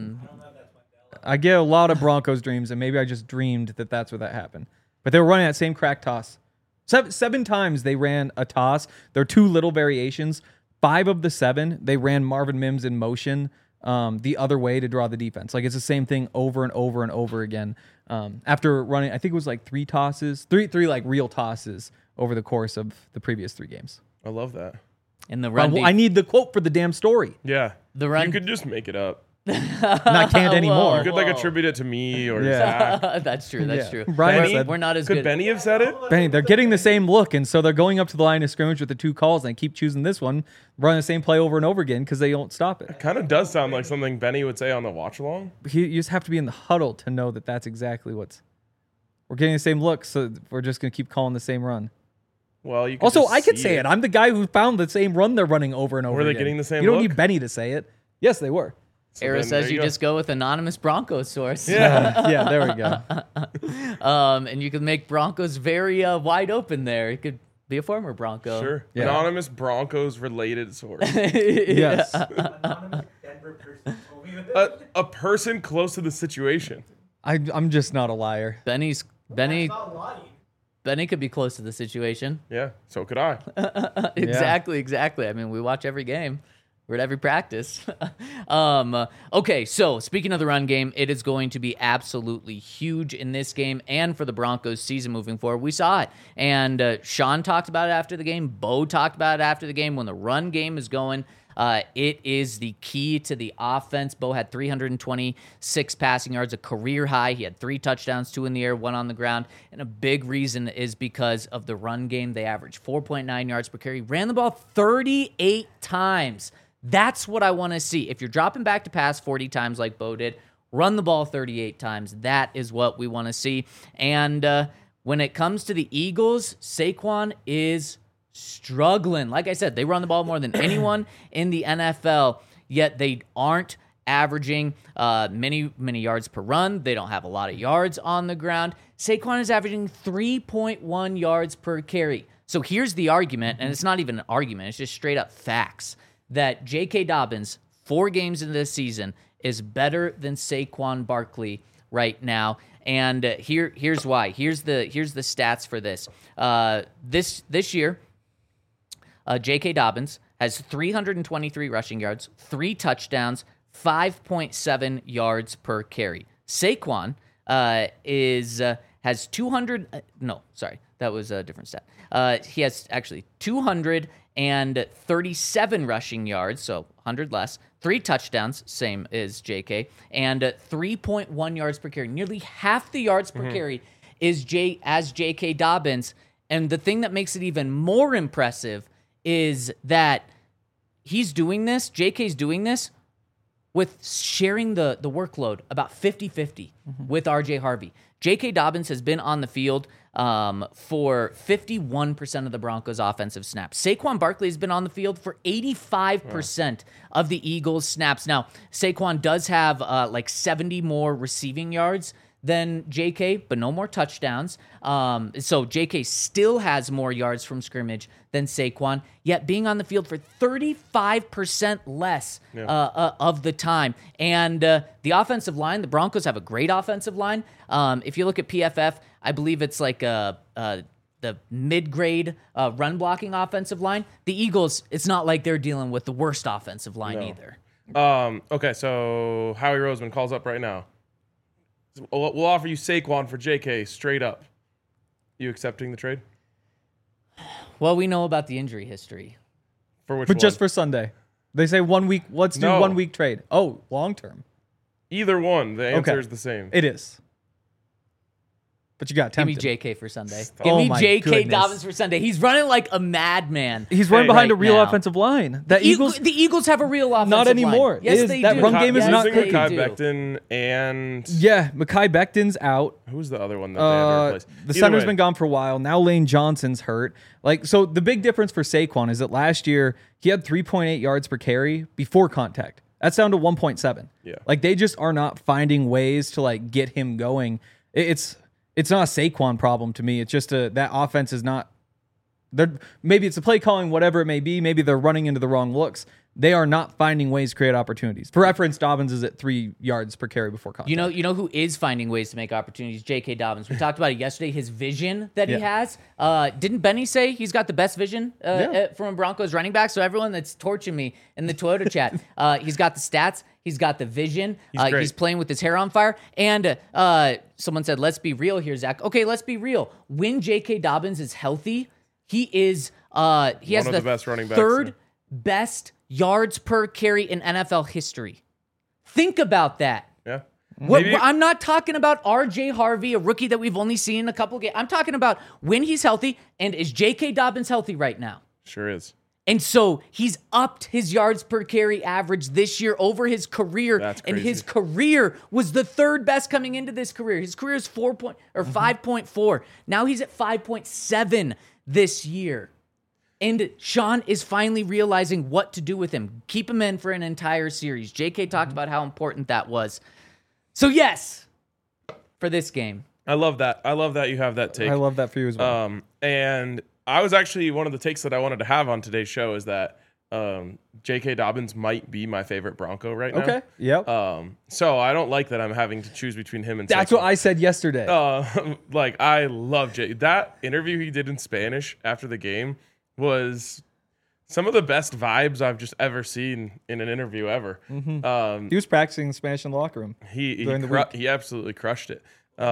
I get a lot of Broncos dreams, and maybe I just dreamed that that's where that happened. But they were running that same crack toss. Seven times they ran a toss. There are 2 little variations. 5 of the 7, they ran Marvin Mims in motion the other way to draw the defense. Like, it's the same thing over and over and over again. After running, I think it was like 3 tosses, three like real tosses over the course of the previous 3 games. I love that. In the run, I need the quote for the damn story. Yeah. The run- You could just make it up. I can't anymore. You could like attribute it to me or Yeah. Zach. That's true. That's true. Brian Benny, said- we're not as Could good. Benny have said it? Benny, they're getting the same look, and so they're going up to the line of scrimmage with the 2 calls, and they keep choosing this one, running the same play over and over again because they don't stop it. Kind of does sound like something Benny would say on the watch along. You just have to be in the huddle to know that that's exactly what's. We're getting the same look, so we're just going to keep calling the same run. Well, you could Also, just I could see say it. I'm the guy who found the same run they're running over and over Were they again. getting the same You don't look? need Benny to say it. Yes, they were. So Era then says there you go. just go with anonymous Broncos source. Yeah. Yeah, there we go. And you can make Broncos very wide open there. It could be a former Bronco. Sure. Yeah. Anonymous Broncos related source. Yes. Anonymous Denver person told me that. A person close to the situation. I'm just not a liar. Benny Not lying. Benny could be close to the situation. Yeah. So could I. Exactly. I mean, we watch every game. We're at every practice. Okay, so speaking of the run game, it is going to be absolutely huge in this game and for the Broncos season moving forward. We saw it. And Sean talked about it after the game. Bo talked about it after the game. When the run game is going, it is the key to the offense. Bo had 326 passing yards, a career high. He had 3 touchdowns, 2 in the air, 1 on the ground. And a big reason is because of the run game. They averaged 4.9 yards per carry, ran the ball 38 times. That's what I want to see. If you're dropping back to pass 40 times like Bo did, run the ball 38 times. That is what we want to see. And when it comes to the Eagles, Saquon is struggling. Like I said, they run the ball more than anyone in the NFL, yet they aren't averaging many yards per run. They don't have a lot of yards on the ground. Saquon is averaging 3.1 yards per carry. So here's the argument, and it's not even an argument, it's just straight up facts, that J.K. Dobbins, 4 games into this season, is better than Saquon Barkley right now. And here's why. Here's the stats for this. This year, J.K. Dobbins has 323 rushing yards, 3 touchdowns, 5.7 yards per carry. Saquon has 200. No, sorry, that was a different stat. He has actually 237 rushing yards, so 100 less. 3 touchdowns, same as JK, and 3.1 yards per carry. Nearly half the yards per carry is J.K. Dobbins. And the thing that makes it even more impressive is that he's doing this, JK's doing this, with sharing the workload about 50-50 with RJ Harvey. J.K. Dobbins has been on the field for 51% of the Broncos' offensive snaps. Saquon Barkley has been on the field for 85% of the Eagles' snaps. Now, Saquon does have like 70 more receiving yards than JK, but no more touchdowns. So JK still has more yards from scrimmage than Saquon, yet being on the field for 35% less of the time. And the offensive line, the Broncos have a great offensive line. If you look at PFF, I believe it's like the mid-grade run blocking offensive line. The Eagles, it's not like they're dealing with the worst offensive line either. Okay, so Howie Roseman calls up right now. We'll offer you Saquon for JK straight up. You accepting the trade? Well, we know about the injury history. For which But one? just for Sunday. They say 1 week. Let's do No. 1 week trade. Oh, long term. Either one. The answer Okay. is the same. It is. But you got Give me tempted. JK for Sunday. Stop. Give Oh me my JK goodness. Dobbins for Sunday. He's running like a madman. He's running Hey, behind a right real now. offensive line. The Eagles. The Eagles have a real offensive Not anymore. line. Yes, It is- they that do. run game is Yes, not they clicking. Mekhi do. Becton and Yeah, Mekhi Becton's out. who's the other one that they had to replace? The Either center's way, been gone for a while. Now Lane Johnson's hurt. Like, so the big difference for Saquon is that last year he had 3.8 yards per carry before contact. That's down to 1.7. Yeah. Like, they just are not finding ways to like get him going. It's not a Saquon problem to me. It's just that offense is not. Maybe it's a play calling, whatever it may be. Maybe they're running into the wrong looks. They are not finding ways to create opportunities. For reference, Dobbins is at 3 yards per carry before contact. You know who is finding ways to make opportunities? J.K. Dobbins. We talked about it yesterday. His vision that he has. Didn't Benny say he's got the best vision from a Broncos running back? So everyone that's torching me in the Toyota chat, he's got the stats. He's got the vision. great. He's playing with his hair on fire. And someone said, "Let's be real here, Zach." Okay, let's be real. When J.K. Dobbins is healthy, he is he has of the the best running backs, third best yards per carry in NFL history. Think about that. Yeah. I'm not talking about R.J. Harvey, a rookie that we've only seen in a couple games. I'm talking about when he's healthy, and is J.K. Dobbins healthy right now? Sure is. And so he's upped his yards per carry average this year over his career. That's And crazy. his career was the third best coming into this career. His career is 5.4. Now he's at 5.7 this year. And Sean is finally realizing what to do with him. Keep him in for an entire series. JK talked about how important that was. So yes, for this game. I love that. I love that you have that take. I love that for you as well. And I was actually one of the takes that I wanted to have on today's show is that J.K. Dobbins might be my favorite Bronco right now. Okay. Yep. So I don't like that I'm having to choose between him and That's Saquon. what I said yesterday. Like, I love Jay. That interview he did in Spanish after the game was some of the best vibes I've just ever seen in an interview ever. He was practicing Spanish in the locker room. During the week. He absolutely crushed it.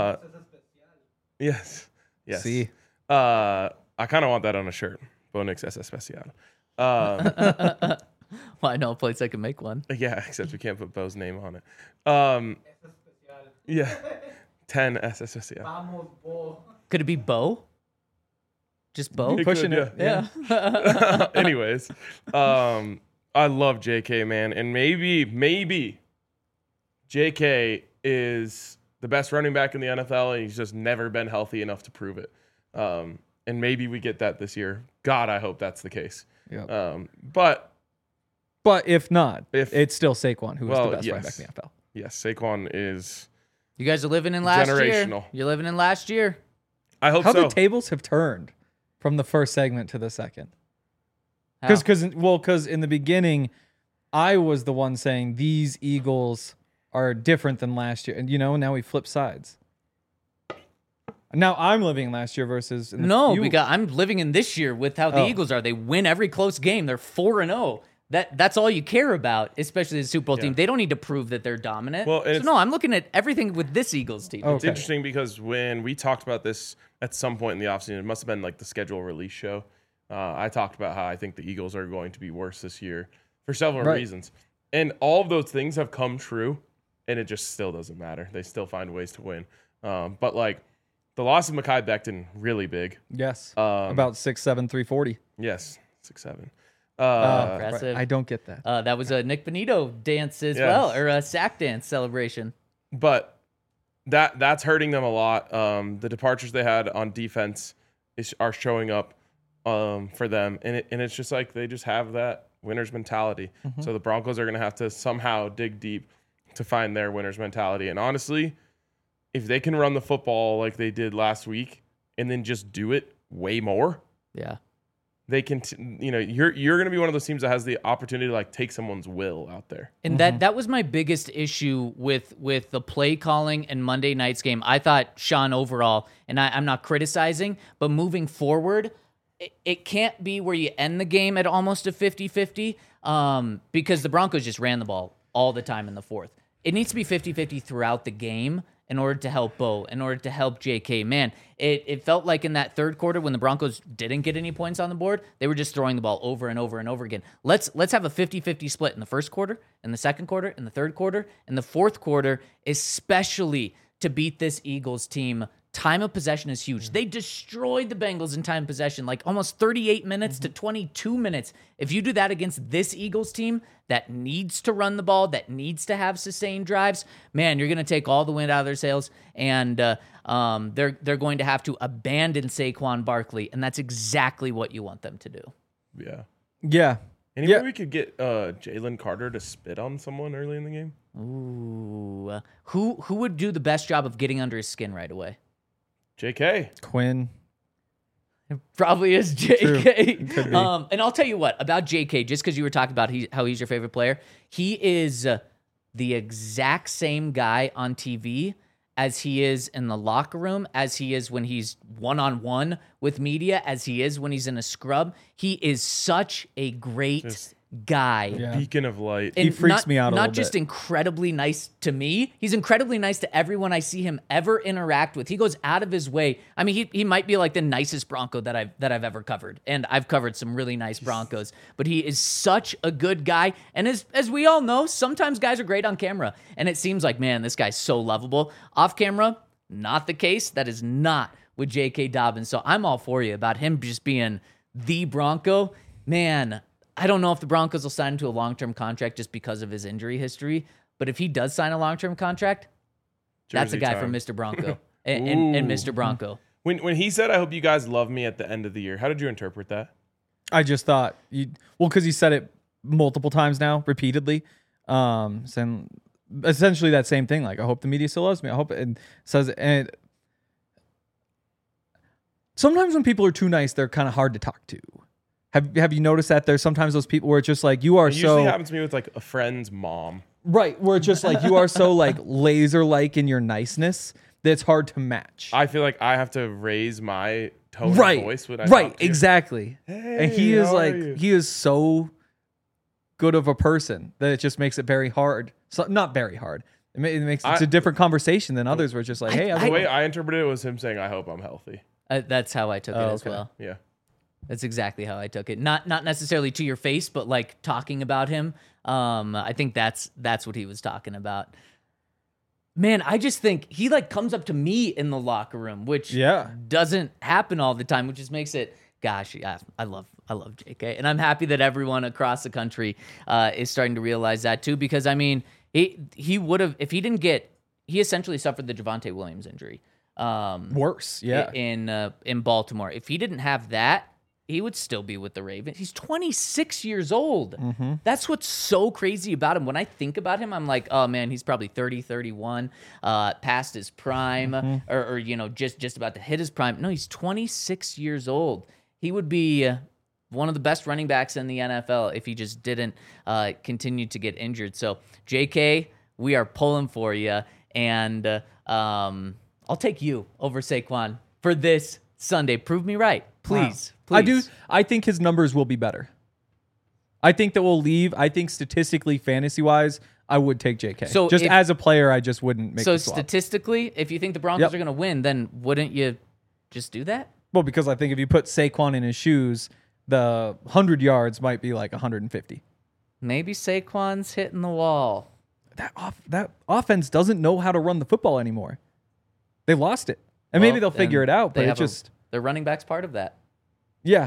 Yes. Yes. See. I kind of want that on a shirt. Bonix es especial. Well, I know a place I can make one. Yeah, except we can't put Bo's name on it. Yeah. 10 es especial. Vamos, Bo. Could it be Bo? Just Bo? It Pushing could, it. Yeah. Anyways, I love JK, man. And maybe JK is the best running back in the NFL, and he's just never been healthy enough to prove it. And maybe we get that this year. God, I hope that's the case. Yep. But But if not, If- it's still Saquon who is Well, the best running yes. back in the NFL. yes, Saquon is. You guys are living in last year. Generational. You're living in last year. I hope How so. the tables have turned from the first segment to the second. How? Because in the beginning, I was the one saying these Eagles are different than last year, and now we flip sides. Now I'm living last year versus I'm living in this year with how the Eagles are. They win every close game. They're 4-0. That's all you care about, especially the Super Bowl Yeah. team. They don't need to prove that they're dominant. Well, and so it's- no, I'm looking at everything with this Eagles team. Oh. It's Okay. interesting because when we talked about this at some point in the offseason, it must have been like the schedule release show. I talked about how I think the Eagles are going to be worse this year for several Right. reasons. And all of those things have come true, and it just still doesn't matter. They still find ways to win. But like the loss of Mekhi Becton, really big. Yes. Um, About 6'7", 340. Yes, 6'7". Impressive. I don't get that. That was a Nick Benito dance as Yes. well, or a sack dance celebration. But that's hurting them a lot. The departures they had on defense are showing up for them, and it's just like they just have that winner's mentality. So the Broncos are going to have to somehow dig deep to find their winner's mentality. And honestly, if they can run the football like they did last week and then just do it way more, Yeah. they can. You're going to be one of those teams that has the opportunity to like take someone's will out there. And that was my biggest issue with the play calling and Monday night's game. I thought Sean overall, and I'm not criticizing, but moving forward, it can't be where you end the game at almost a 50-50 because the Broncos just ran the ball all the time in the fourth. It needs to be 50-50 throughout the game in order to help Bo, in order to help JK. Man, it felt like in that third quarter when the Broncos didn't get any points on the board, they were just throwing the ball over and over and over again. Let's have a 50-50 split in the first quarter, in the second quarter, in the third quarter, in the fourth quarter, especially to beat this Eagles team. Time of possession is huge. They destroyed the Bengals in time of possession, like almost 38 minutes to 22 minutes. If you do that against this Eagles team that needs to run the ball, that needs to have sustained drives, man, you're going to take all the wind out of their sails, and they're going to have to abandon Saquon Barkley, and that's exactly what you want them to do. Yeah. Yeah. Any way we could get Jalen Carter to spit on someone early in the game? Ooh, who would do the best job of getting under his skin right away? JK. Quinn. Probably is JK. Could be. And I'll tell you what about JK, just because you were talking about how he's your favorite player. He is the exact same guy on TV as he is in the locker room, as he is when he's one-on-one with media, as he is when he's in a scrub. He is such a great guy. Yeah. Beacon of light. He freaks me out a Not little just bit. incredibly nice to me. He's incredibly nice to everyone I see him ever interact with. He goes out of his way. I mean, he might be like the nicest Bronco that I've ever covered, and I've covered some really nice Broncos. But he is such a good guy, and as we all know, sometimes guys are great on camera, and it seems like, man, this guy's so lovable. Off camera, not the case. That is not with J.K. Dobbins. So I'm all for you about him just being the Bronco. Man, I don't know if the Broncos will sign him to a long-term contract just because of his injury history, but if he does sign a long-term contract, that's a Jersey guy time. from Mr. Bronco and Mr. Bronco. When he said, "I hope you guys love me at the end of the year," how did you interpret that? I just thought because he said it multiple times now, repeatedly, saying essentially that same thing. Like, I hope the media still loves me. I hope it says, and sometimes when people are too nice, they're kind of hard to talk to. Have you noticed that there's sometimes those people where it's just like you are It usually so happens to me with like a friend's mom. right, where it's just like you are so like laser like in your niceness that it's hard to match. I feel like I have to raise my tone right, of voice when I right, talk to you. exactly. And he Hey, is how are like you? he is so good of a person that it just makes it very hard. So not very hard. It makes it's a different conversation than others where it's just like, hey, The way I interpreted it was him saying, "I hope I'm healthy." That's how I took it as okay. well. Yeah. That's exactly how I took it. Not necessarily to your face, but like talking about him. I think that's what he was talking about. Man, I just think he like comes up to me in the locker room, which doesn't happen all the time, which just makes it. Gosh, yeah, I love JK, and I'm happy that everyone across the country is starting to realize that too. Because I mean, he would have if he didn't get. He essentially suffered the Javonte Williams injury. worse. Yeah. In Baltimore. If he didn't have that, he would still be with the Ravens. He's 26 years old. That's what's so crazy about him. When I think about him, I'm like, oh man, he's probably 30, 31, past his prime, or you know, just about to hit his prime. No, he's 26 years old. He would be one of the best running backs in the NFL if he just didn't continue to get injured. So, JK, we are pulling for you, and I'll take you over Saquon for this Sunday. Prove me right, please. I do. I think his numbers will be better. I think that we'll leave. I think statistically, fantasy-wise, I would take JK. So just if- as a player, I just wouldn't make So the swap. statistically, if you think the Broncos Yep. are going to win, then wouldn't you just do that? Well, because I think if you put Saquon in his shoes, the 100 yards might be like 150. Maybe Saquon's hitting the wall. That offense doesn't know how to run the football anymore. They lost it. And maybe Well, they'll figure and it out, they but it have just their running back's part of that. yeah.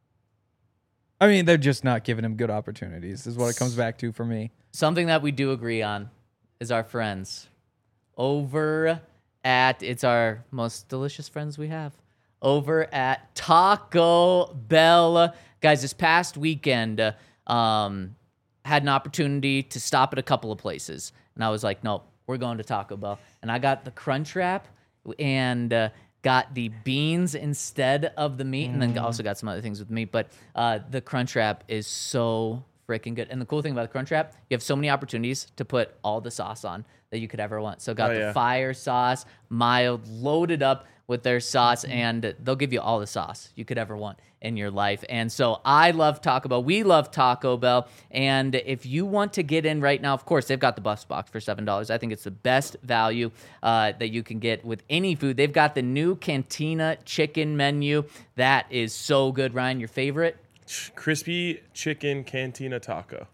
I mean, they're just not giving him good opportunities, is what it comes back to for me. Something that we do agree on is our friends over at, it's our most delicious friends we have, over at Taco Bell. Guys, this past weekend, had an opportunity to stop at a couple of places. And I was like, nope, we're going to Taco Bell. And I got the Crunch Wrap and got the beans instead of the meat, and then also got some other things with meat. But the Crunch Wrap is so freaking good. And the cool thing about the Crunch Wrap, you have so many opportunities to put all the sauce on that you could ever want. So got the fire sauce, mild, loaded up with their sauce, and they'll give you all the sauce you could ever want in your life. And so I love Taco Bell. We love Taco Bell. And if you want to get in right now, of course, they've got the Buffs Box for $7. I think it's the best value that you can get with any food. They've got the new Cantina chicken menu. That is so good. Ryan, your favorite? Crispy chicken cantina taco.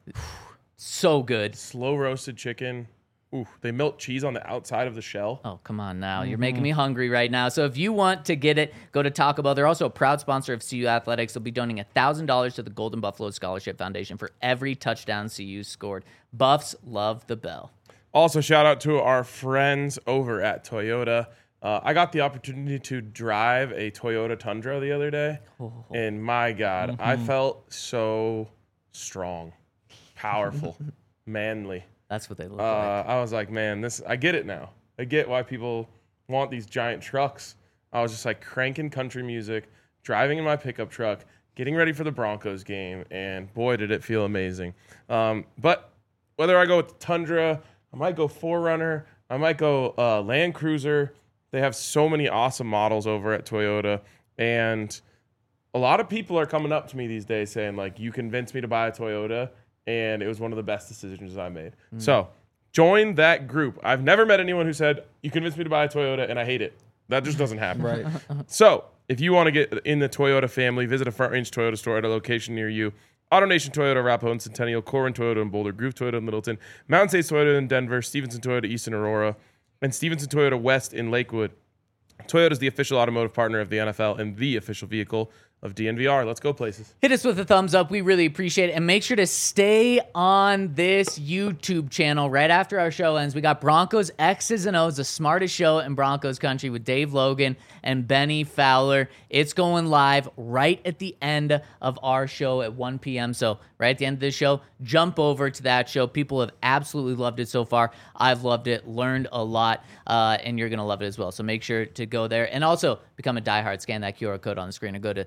So good. Slow roasted chicken. Ooh, they melt cheese on the outside of the shell. Oh, come on now. You're making me hungry right now. So if you want to get it, go to Taco Bell. They're also a proud sponsor of CU Athletics. They'll be donating $1,000 to the Golden Buffalo Scholarship Foundation for every touchdown CU scored. Buffs love the Bell. Also, shout out to our friends over at Toyota. I got the opportunity to drive a Toyota Tundra the other day, and my God, I felt so strong, powerful, manly. That's what they look like. I was like, man, I get it now. I get why people want these giant trucks. I was just like cranking country music, driving in my pickup truck, getting ready for the Broncos game, and boy, did it feel amazing. But whether I go with the Tundra, I might go 4Runner, I might go Land Cruiser. They have so many awesome models over at Toyota, and a lot of people are coming up to me these days saying, like, you convinced me to buy a Toyota, and it was one of the best decisions I made. So join that group. I've never met anyone who said, you convinced me to buy a Toyota, and I hate it. That just doesn't happen. Right. So if you want to get in the Toyota family, visit a Front Range Toyota store at a location near you. AutoNation Toyota, Arapahoe and Centennial, Corwin Toyota in Boulder, Groove Toyota in Littleton, Mountain States Toyota in Denver, Stevenson Toyota East in Aurora, and Stevenson Toyota West in Lakewood. Toyota is the official automotive partner of the NFL and the official vehicle of DNVR. Let's go places. Hit us with a thumbs up. We really appreciate it. And make sure to stay on this YouTube channel right after our show ends. We got Broncos X's and O's, the smartest show in Broncos country with Dave Logan and Benny Fowler. It's going live right at the end of our show at 1 p.m. So right at the end of this show, jump over to that show. People have absolutely loved it so far. I've loved it, learned a lot, and you're going to love it as well. So make sure to go there. And also become a diehard. Scan that QR code on the screen or go to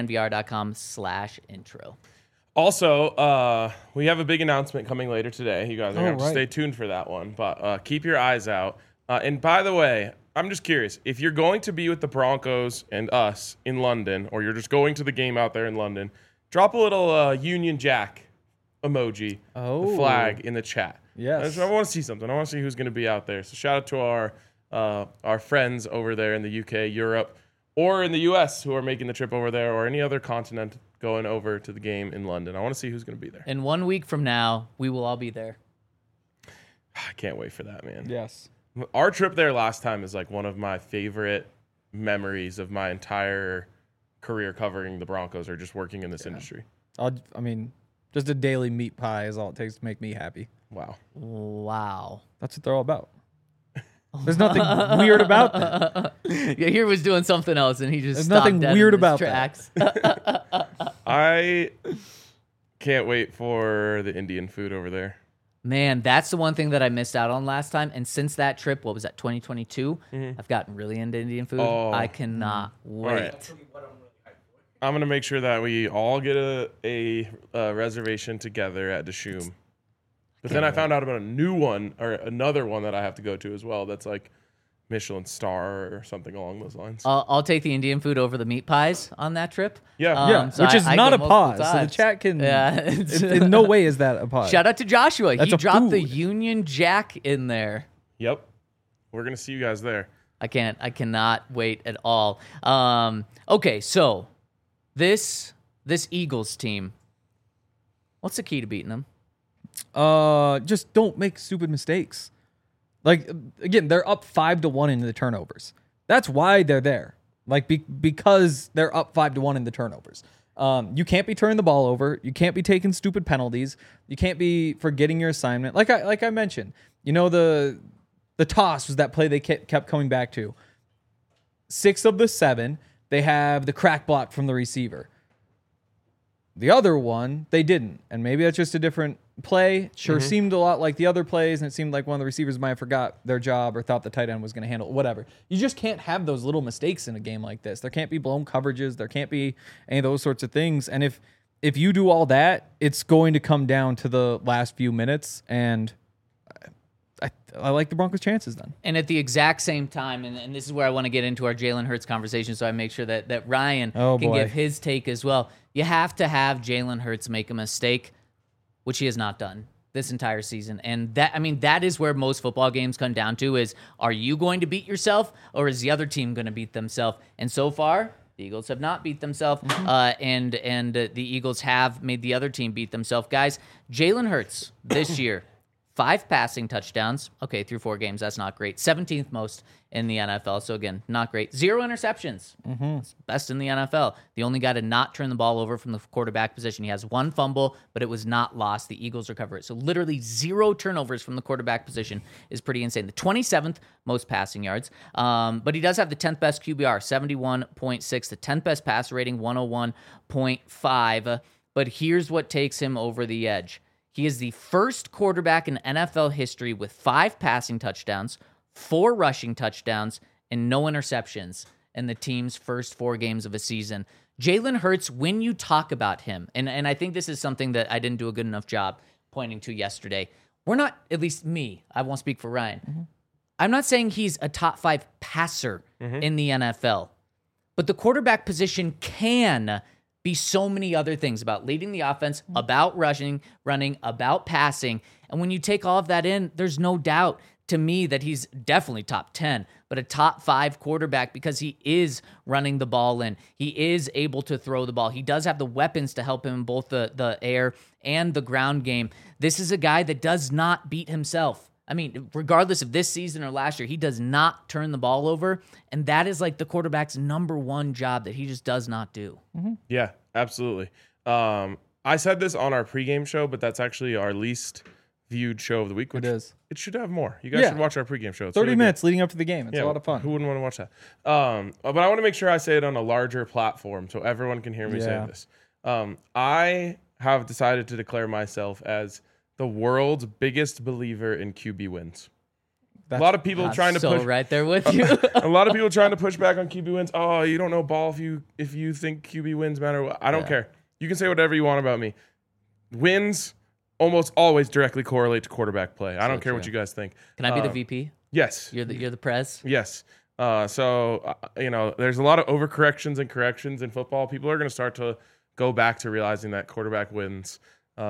thednvr.com/intro. Also, we have a big announcement coming later today. You guys are going to have to right. stay tuned for that one. But keep your eyes out. And by the way, I'm just curious. If you're going to be with the Broncos and us in London, or you're just going to the game out there in London, drop a little Union Jack emoji, the flag, in the chat. Yes. I want to see something. I want to see who's going to be out there. So shout out to our friends over there in the UK, Europe, or in the US who are making the trip over there, or any other continent going over to the game in London. I want to see who's going to be there. And 1 week from now, we will all be there. I can't wait for that, man. Yes. Our trip there last time is like one of my favorite memories of my entire career covering the Broncos or just working in this industry. I mean, just a daily meat pie is all it takes to make me happy. Wow. Wow. That's what they're all about. There's nothing weird about that. Yeah, he was doing something else, and he just There's stopped nothing dead weird in his about tracks. I can't wait for the Indian food over there. Man, that's the one thing that I missed out on last time. And since that trip, what was that, 2022? I've gotten really into Indian food. Oh. I cannot wait. right. I'm going to make sure that we all get a reservation together at Dishoom. But then I found out about a new one, or another one that I have to go to as well. That's like Michelin star or something along those lines. I'll take the Indian food over the meat pies on that trip. Yeah. Yeah, So which is I not go a pause. multiple So the times. chat can. Yeah. In no way is that a pause. Shout out to Joshua. That's He a dropped the food. Union Jack in there. Yep. We're going to see you guys there. I cannot wait at all. Okay, so this Eagles team, what's the key to beating them? Just don't make stupid mistakes. Like again, they're up 5-1 in the turnovers. That's why they're there. Like because they're up 5-1 in the turnovers. You can't be turning the ball over. You can't be taking stupid penalties. You can't be forgetting your assignment. Like I mentioned, the toss was that play they kept coming back to. 6 of the 7, they have the crack block from the receiver. The other one, they didn't. And maybe that's just a different play. Sure seemed a lot like the other plays, and it seemed like one of the receivers might have forgot their job or thought the tight end was going to handle it, whatever. You just can't have those little mistakes in a game like this. There can't be blown coverages. There can't be any of those sorts of things. And if you do all that, it's going to come down to the last few minutes, and I like the Broncos' chances then. And at the exact same time, and this is where I want to get into our Jalen Hurts conversation, so I make sure that Ryan can give his take as well. You have to have Jalen Hurts make a mistake, which he has not done this entire season. And that is where most football games come down to is, are you going to beat yourself or is the other team going to beat themselves? And so far, the Eagles have not beat themselves, and the Eagles have made the other team beat themselves. Guys, Jalen Hurts this year, 5 passing touchdowns. Okay, through 4 games, that's not great. 17th most in the NFL. So again, not great. 0 interceptions. That's best in the NFL. The only guy to not turn the ball over from the quarterback position. He has 1 fumble, but it was not lost. The Eagles recover it. So literally 0 turnovers from the quarterback position is pretty insane. The 27th most passing yards. But he does have the 10th best QBR, 71.6. The 10th best passer rating, 101.5. But here's what takes him over the edge. He is the first quarterback in NFL history with 5 passing touchdowns, 4 rushing touchdowns, and no interceptions in the team's first 4 games of a season. Jalen Hurts, when you talk about him, and I think this is something that I didn't do a good enough job pointing to yesterday. We're not, at least me, I won't speak for Ryan. I'm not saying he's a top 5 passer in the NFL, but the quarterback position can be so many other things about leading the offense, about rushing, running, about passing. And when you take all of that in, there's no doubt to me that he's definitely top 10, but a top 5 quarterback because he is running the ball in. He is able to throw the ball. He does have the weapons to help him in both the air and the ground game. This is a guy that does not beat himself. I mean, regardless of this season or last year, he does not turn the ball over, and that is like the quarterback's number 1 job that he just does not do. Yeah, absolutely. I said this on our pregame show, but that's actually our least viewed show of the week. Which It is. It should have more. You guys should watch our pregame show. It's 30 really minutes leading up to the game. It's a lot of fun. Who wouldn't want to watch that? But I want to make sure I say it on a larger platform so everyone can hear me say this. I have decided to declare myself as the world's biggest believer in QB wins. A lot of people trying to push right there with you. a lot of people trying to push back on QB wins. Oh, you don't know ball if you think QB wins matter. I don't care. You can say whatever you want about me. Wins almost always directly correlate to quarterback play. I don't care what you guys think. Can I be the VP? Yes. You're the prez? Yes. There's a lot of overcorrections and corrections in football. People are going to start to go back to realizing that quarterback wins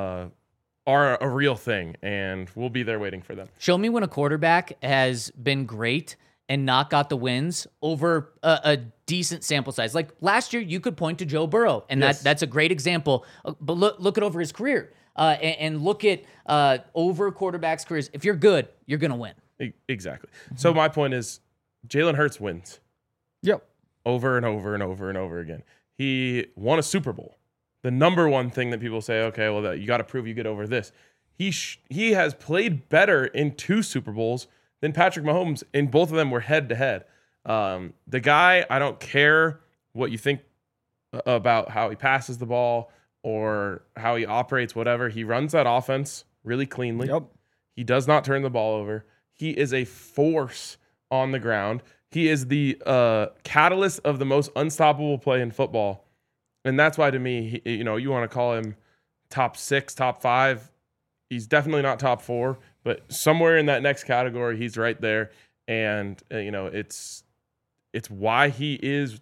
are a real thing, and we'll be there waiting for them. Show me when a quarterback has been great and not got the wins over a decent sample size. Like last year, you could point to Joe Burrow, and that's a great example. But look at over his career and look at over quarterbacks' careers. If you're good, you're going to win. Exactly. So my point is Jalen Hurts wins. Yep. Over and over and over and over again. He won a Super Bowl. The number one thing that people say, okay, well, you got to prove you get over this. He has played better in 2 Super Bowls than Patrick Mahomes, and both of them were head-to-head. The guy, I don't care what you think about how he passes the ball or how he operates, whatever. He runs that offense really cleanly. Yep. He does not turn the ball over. He is a force on the ground. He is the catalyst of the most unstoppable play in football. And that's why, to me, you want to call him top 6, top 5. He's definitely not top 4, but somewhere in that next category, he's right there. and it's why he's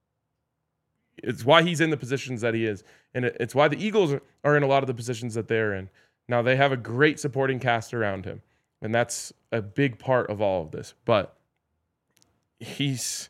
in the positions that he is, and it's why the Eagles are in a lot of the positions that they're in. Now they have a great supporting cast around him, and that's a big part of all of this. But he's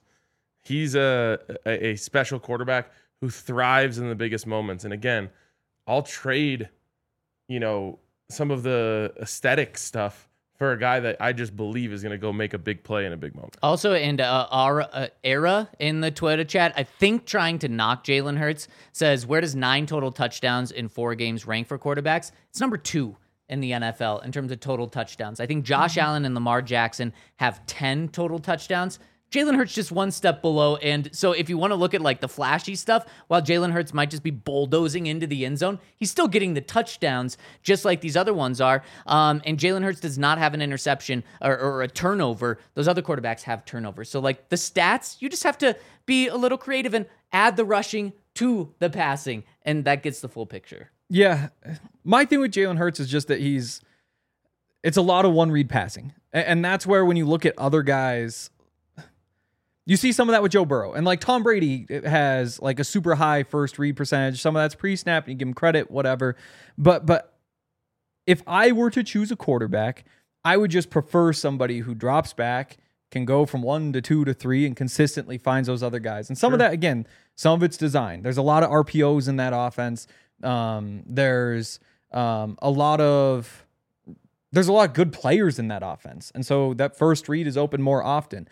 a special quarterback who thrives in the biggest moments. And again, I'll trade, some of the aesthetic stuff for a guy that I just believe is going to go make a big play in a big moment. Also, and our era in the Twitter chat, I think trying to knock Jalen Hurts, says, where does 9 total touchdowns in 4 games rank for quarterbacks? It's number 2 in the NFL in terms of total touchdowns. I think Josh Allen and Lamar Jackson have 10 total touchdowns. Jalen Hurts just one step below. And so if you want to look at like the flashy stuff, while Jalen Hurts might just be bulldozing into the end zone, he's still getting the touchdowns just like these other ones are. And Jalen Hurts does not have an interception or a turnover. Those other quarterbacks have turnovers. So like the stats, you just have to be a little creative and add the rushing to the passing. And that gets the full picture. Yeah. My thing with Jalen Hurts is just that it's a lot of one-read passing. And that's where when you look at other guys, you see some of that with Joe Burrow. And like Tom Brady has like a super high first read percentage. Some of that's pre-snap, and you give him credit, whatever. But if I were to choose a quarterback, I would just prefer somebody who drops back, can go from 1 to 2 to 3, and consistently finds those other guys. And some of that, again, some of it's design. There's a lot of RPOs in that offense. There's a lot of good players in that offense. And so that first read is open more often.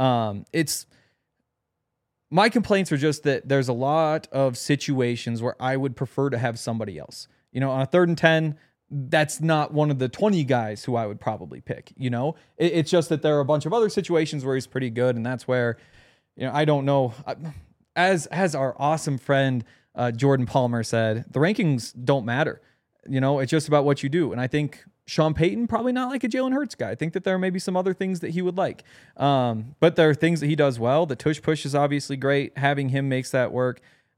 My complaints are just that there's a lot of situations where I would prefer to have somebody else. On a 3rd and 10, that's not one of the 20 guys who I would probably pick. It's just that there are a bunch of other situations where he's pretty good, and that's where, I don't know. As our awesome friend Jordan Palmer said, the rankings don't matter. It's just about what you do, and I think Sean Payton, probably not like a Jalen Hurts guy. I think that there may be some other things that he would like. But there are things that he does well. The tush push is obviously great. Having him makes that work.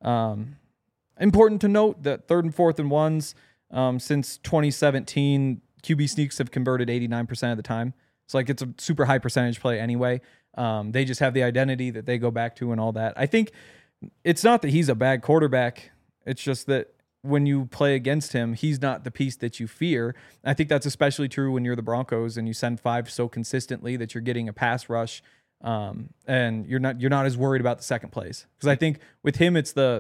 Important to note that 3rd and 4th and 1s since 2017, QB sneaks have converted 89% of the time. So like it's a super high percentage play anyway. They just have the identity that they go back to and all that. I think it's not that he's a bad quarterback. It's just that when you play against him, he's not the piece that you fear. I think that's especially true when you're the Broncos and you send 5 so consistently that you're getting a pass rush, and you're not as worried about the second plays. Because I think with him, it's the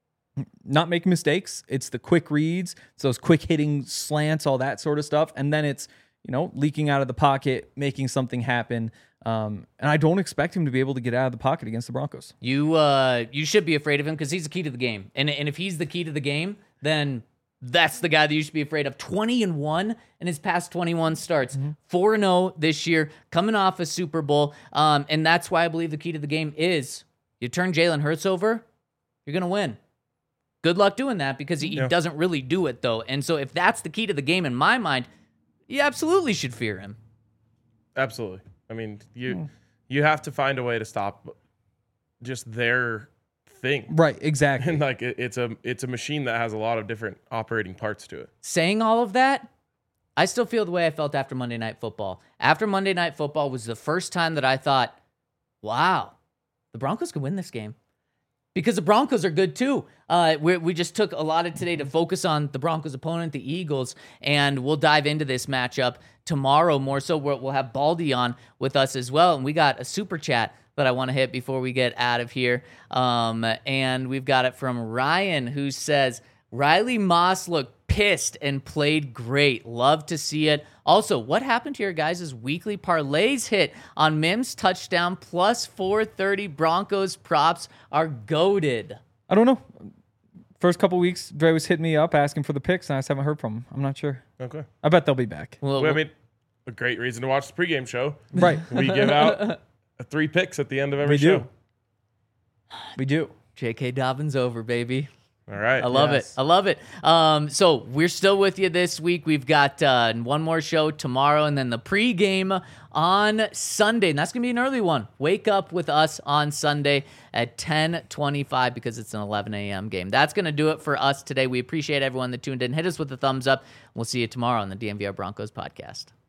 not making mistakes, it's the quick reads, it's those quick hitting slants, all that sort of stuff, and then it's leaking out of the pocket, making something happen. And I don't expect him to be able to get out of the pocket against the Broncos. You should be afraid of him because he's the key to the game. And if he's the key to the game, then that's the guy that you should be afraid of. 20-1 in his past 21 starts. 4-0 this year, coming off a Super Bowl. And that's why I believe the key to the game is you turn Jalen Hurts over, you're going to win. Good luck doing that because he doesn't really do it, though. And so if that's the key to the game in my mind, you absolutely should fear him. Absolutely. I mean, you have to find a way to stop just their thing. Right, exactly. And like it's a machine that has a lot of different operating parts to it. Saying all of that, I still feel the way I felt after Monday Night Football. After Monday Night Football was the first time that I thought, wow, the Broncos could win this game. Because the Broncos are good too. We just took a lot of today to focus on the Broncos' opponent, the Eagles, and we'll dive into this matchup tomorrow more so. We'll have Baldy on with us as well, and we got a super chat that I want to hit before we get out of here. And we've got it from Ryan, who says, Riley Moss looked pissed and played great. Love to see it. Also, what happened to your guys' weekly parlays hit on Mims touchdown plus 430 Broncos props are goated? I don't know. First couple weeks, Dre was hitting me up asking for the picks, and I just haven't heard from him. I'm not sure. Okay. I bet they'll be back. Well, I mean, a great reason to watch the pregame show. Right. We give out 3 picks at the end of every show. We do. J.K. Dobbins over, baby. All right. I love it. I love it. So we're still with you this week. We've got one more show tomorrow and then the pregame on Sunday. And that's going to be an early one. Wake up with us on Sunday at 10:25 because it's an 11 a.m. game. That's going to do it for us today. We appreciate everyone that tuned in. Hit us with a thumbs up. We'll see you tomorrow on the DNVR Broncos podcast.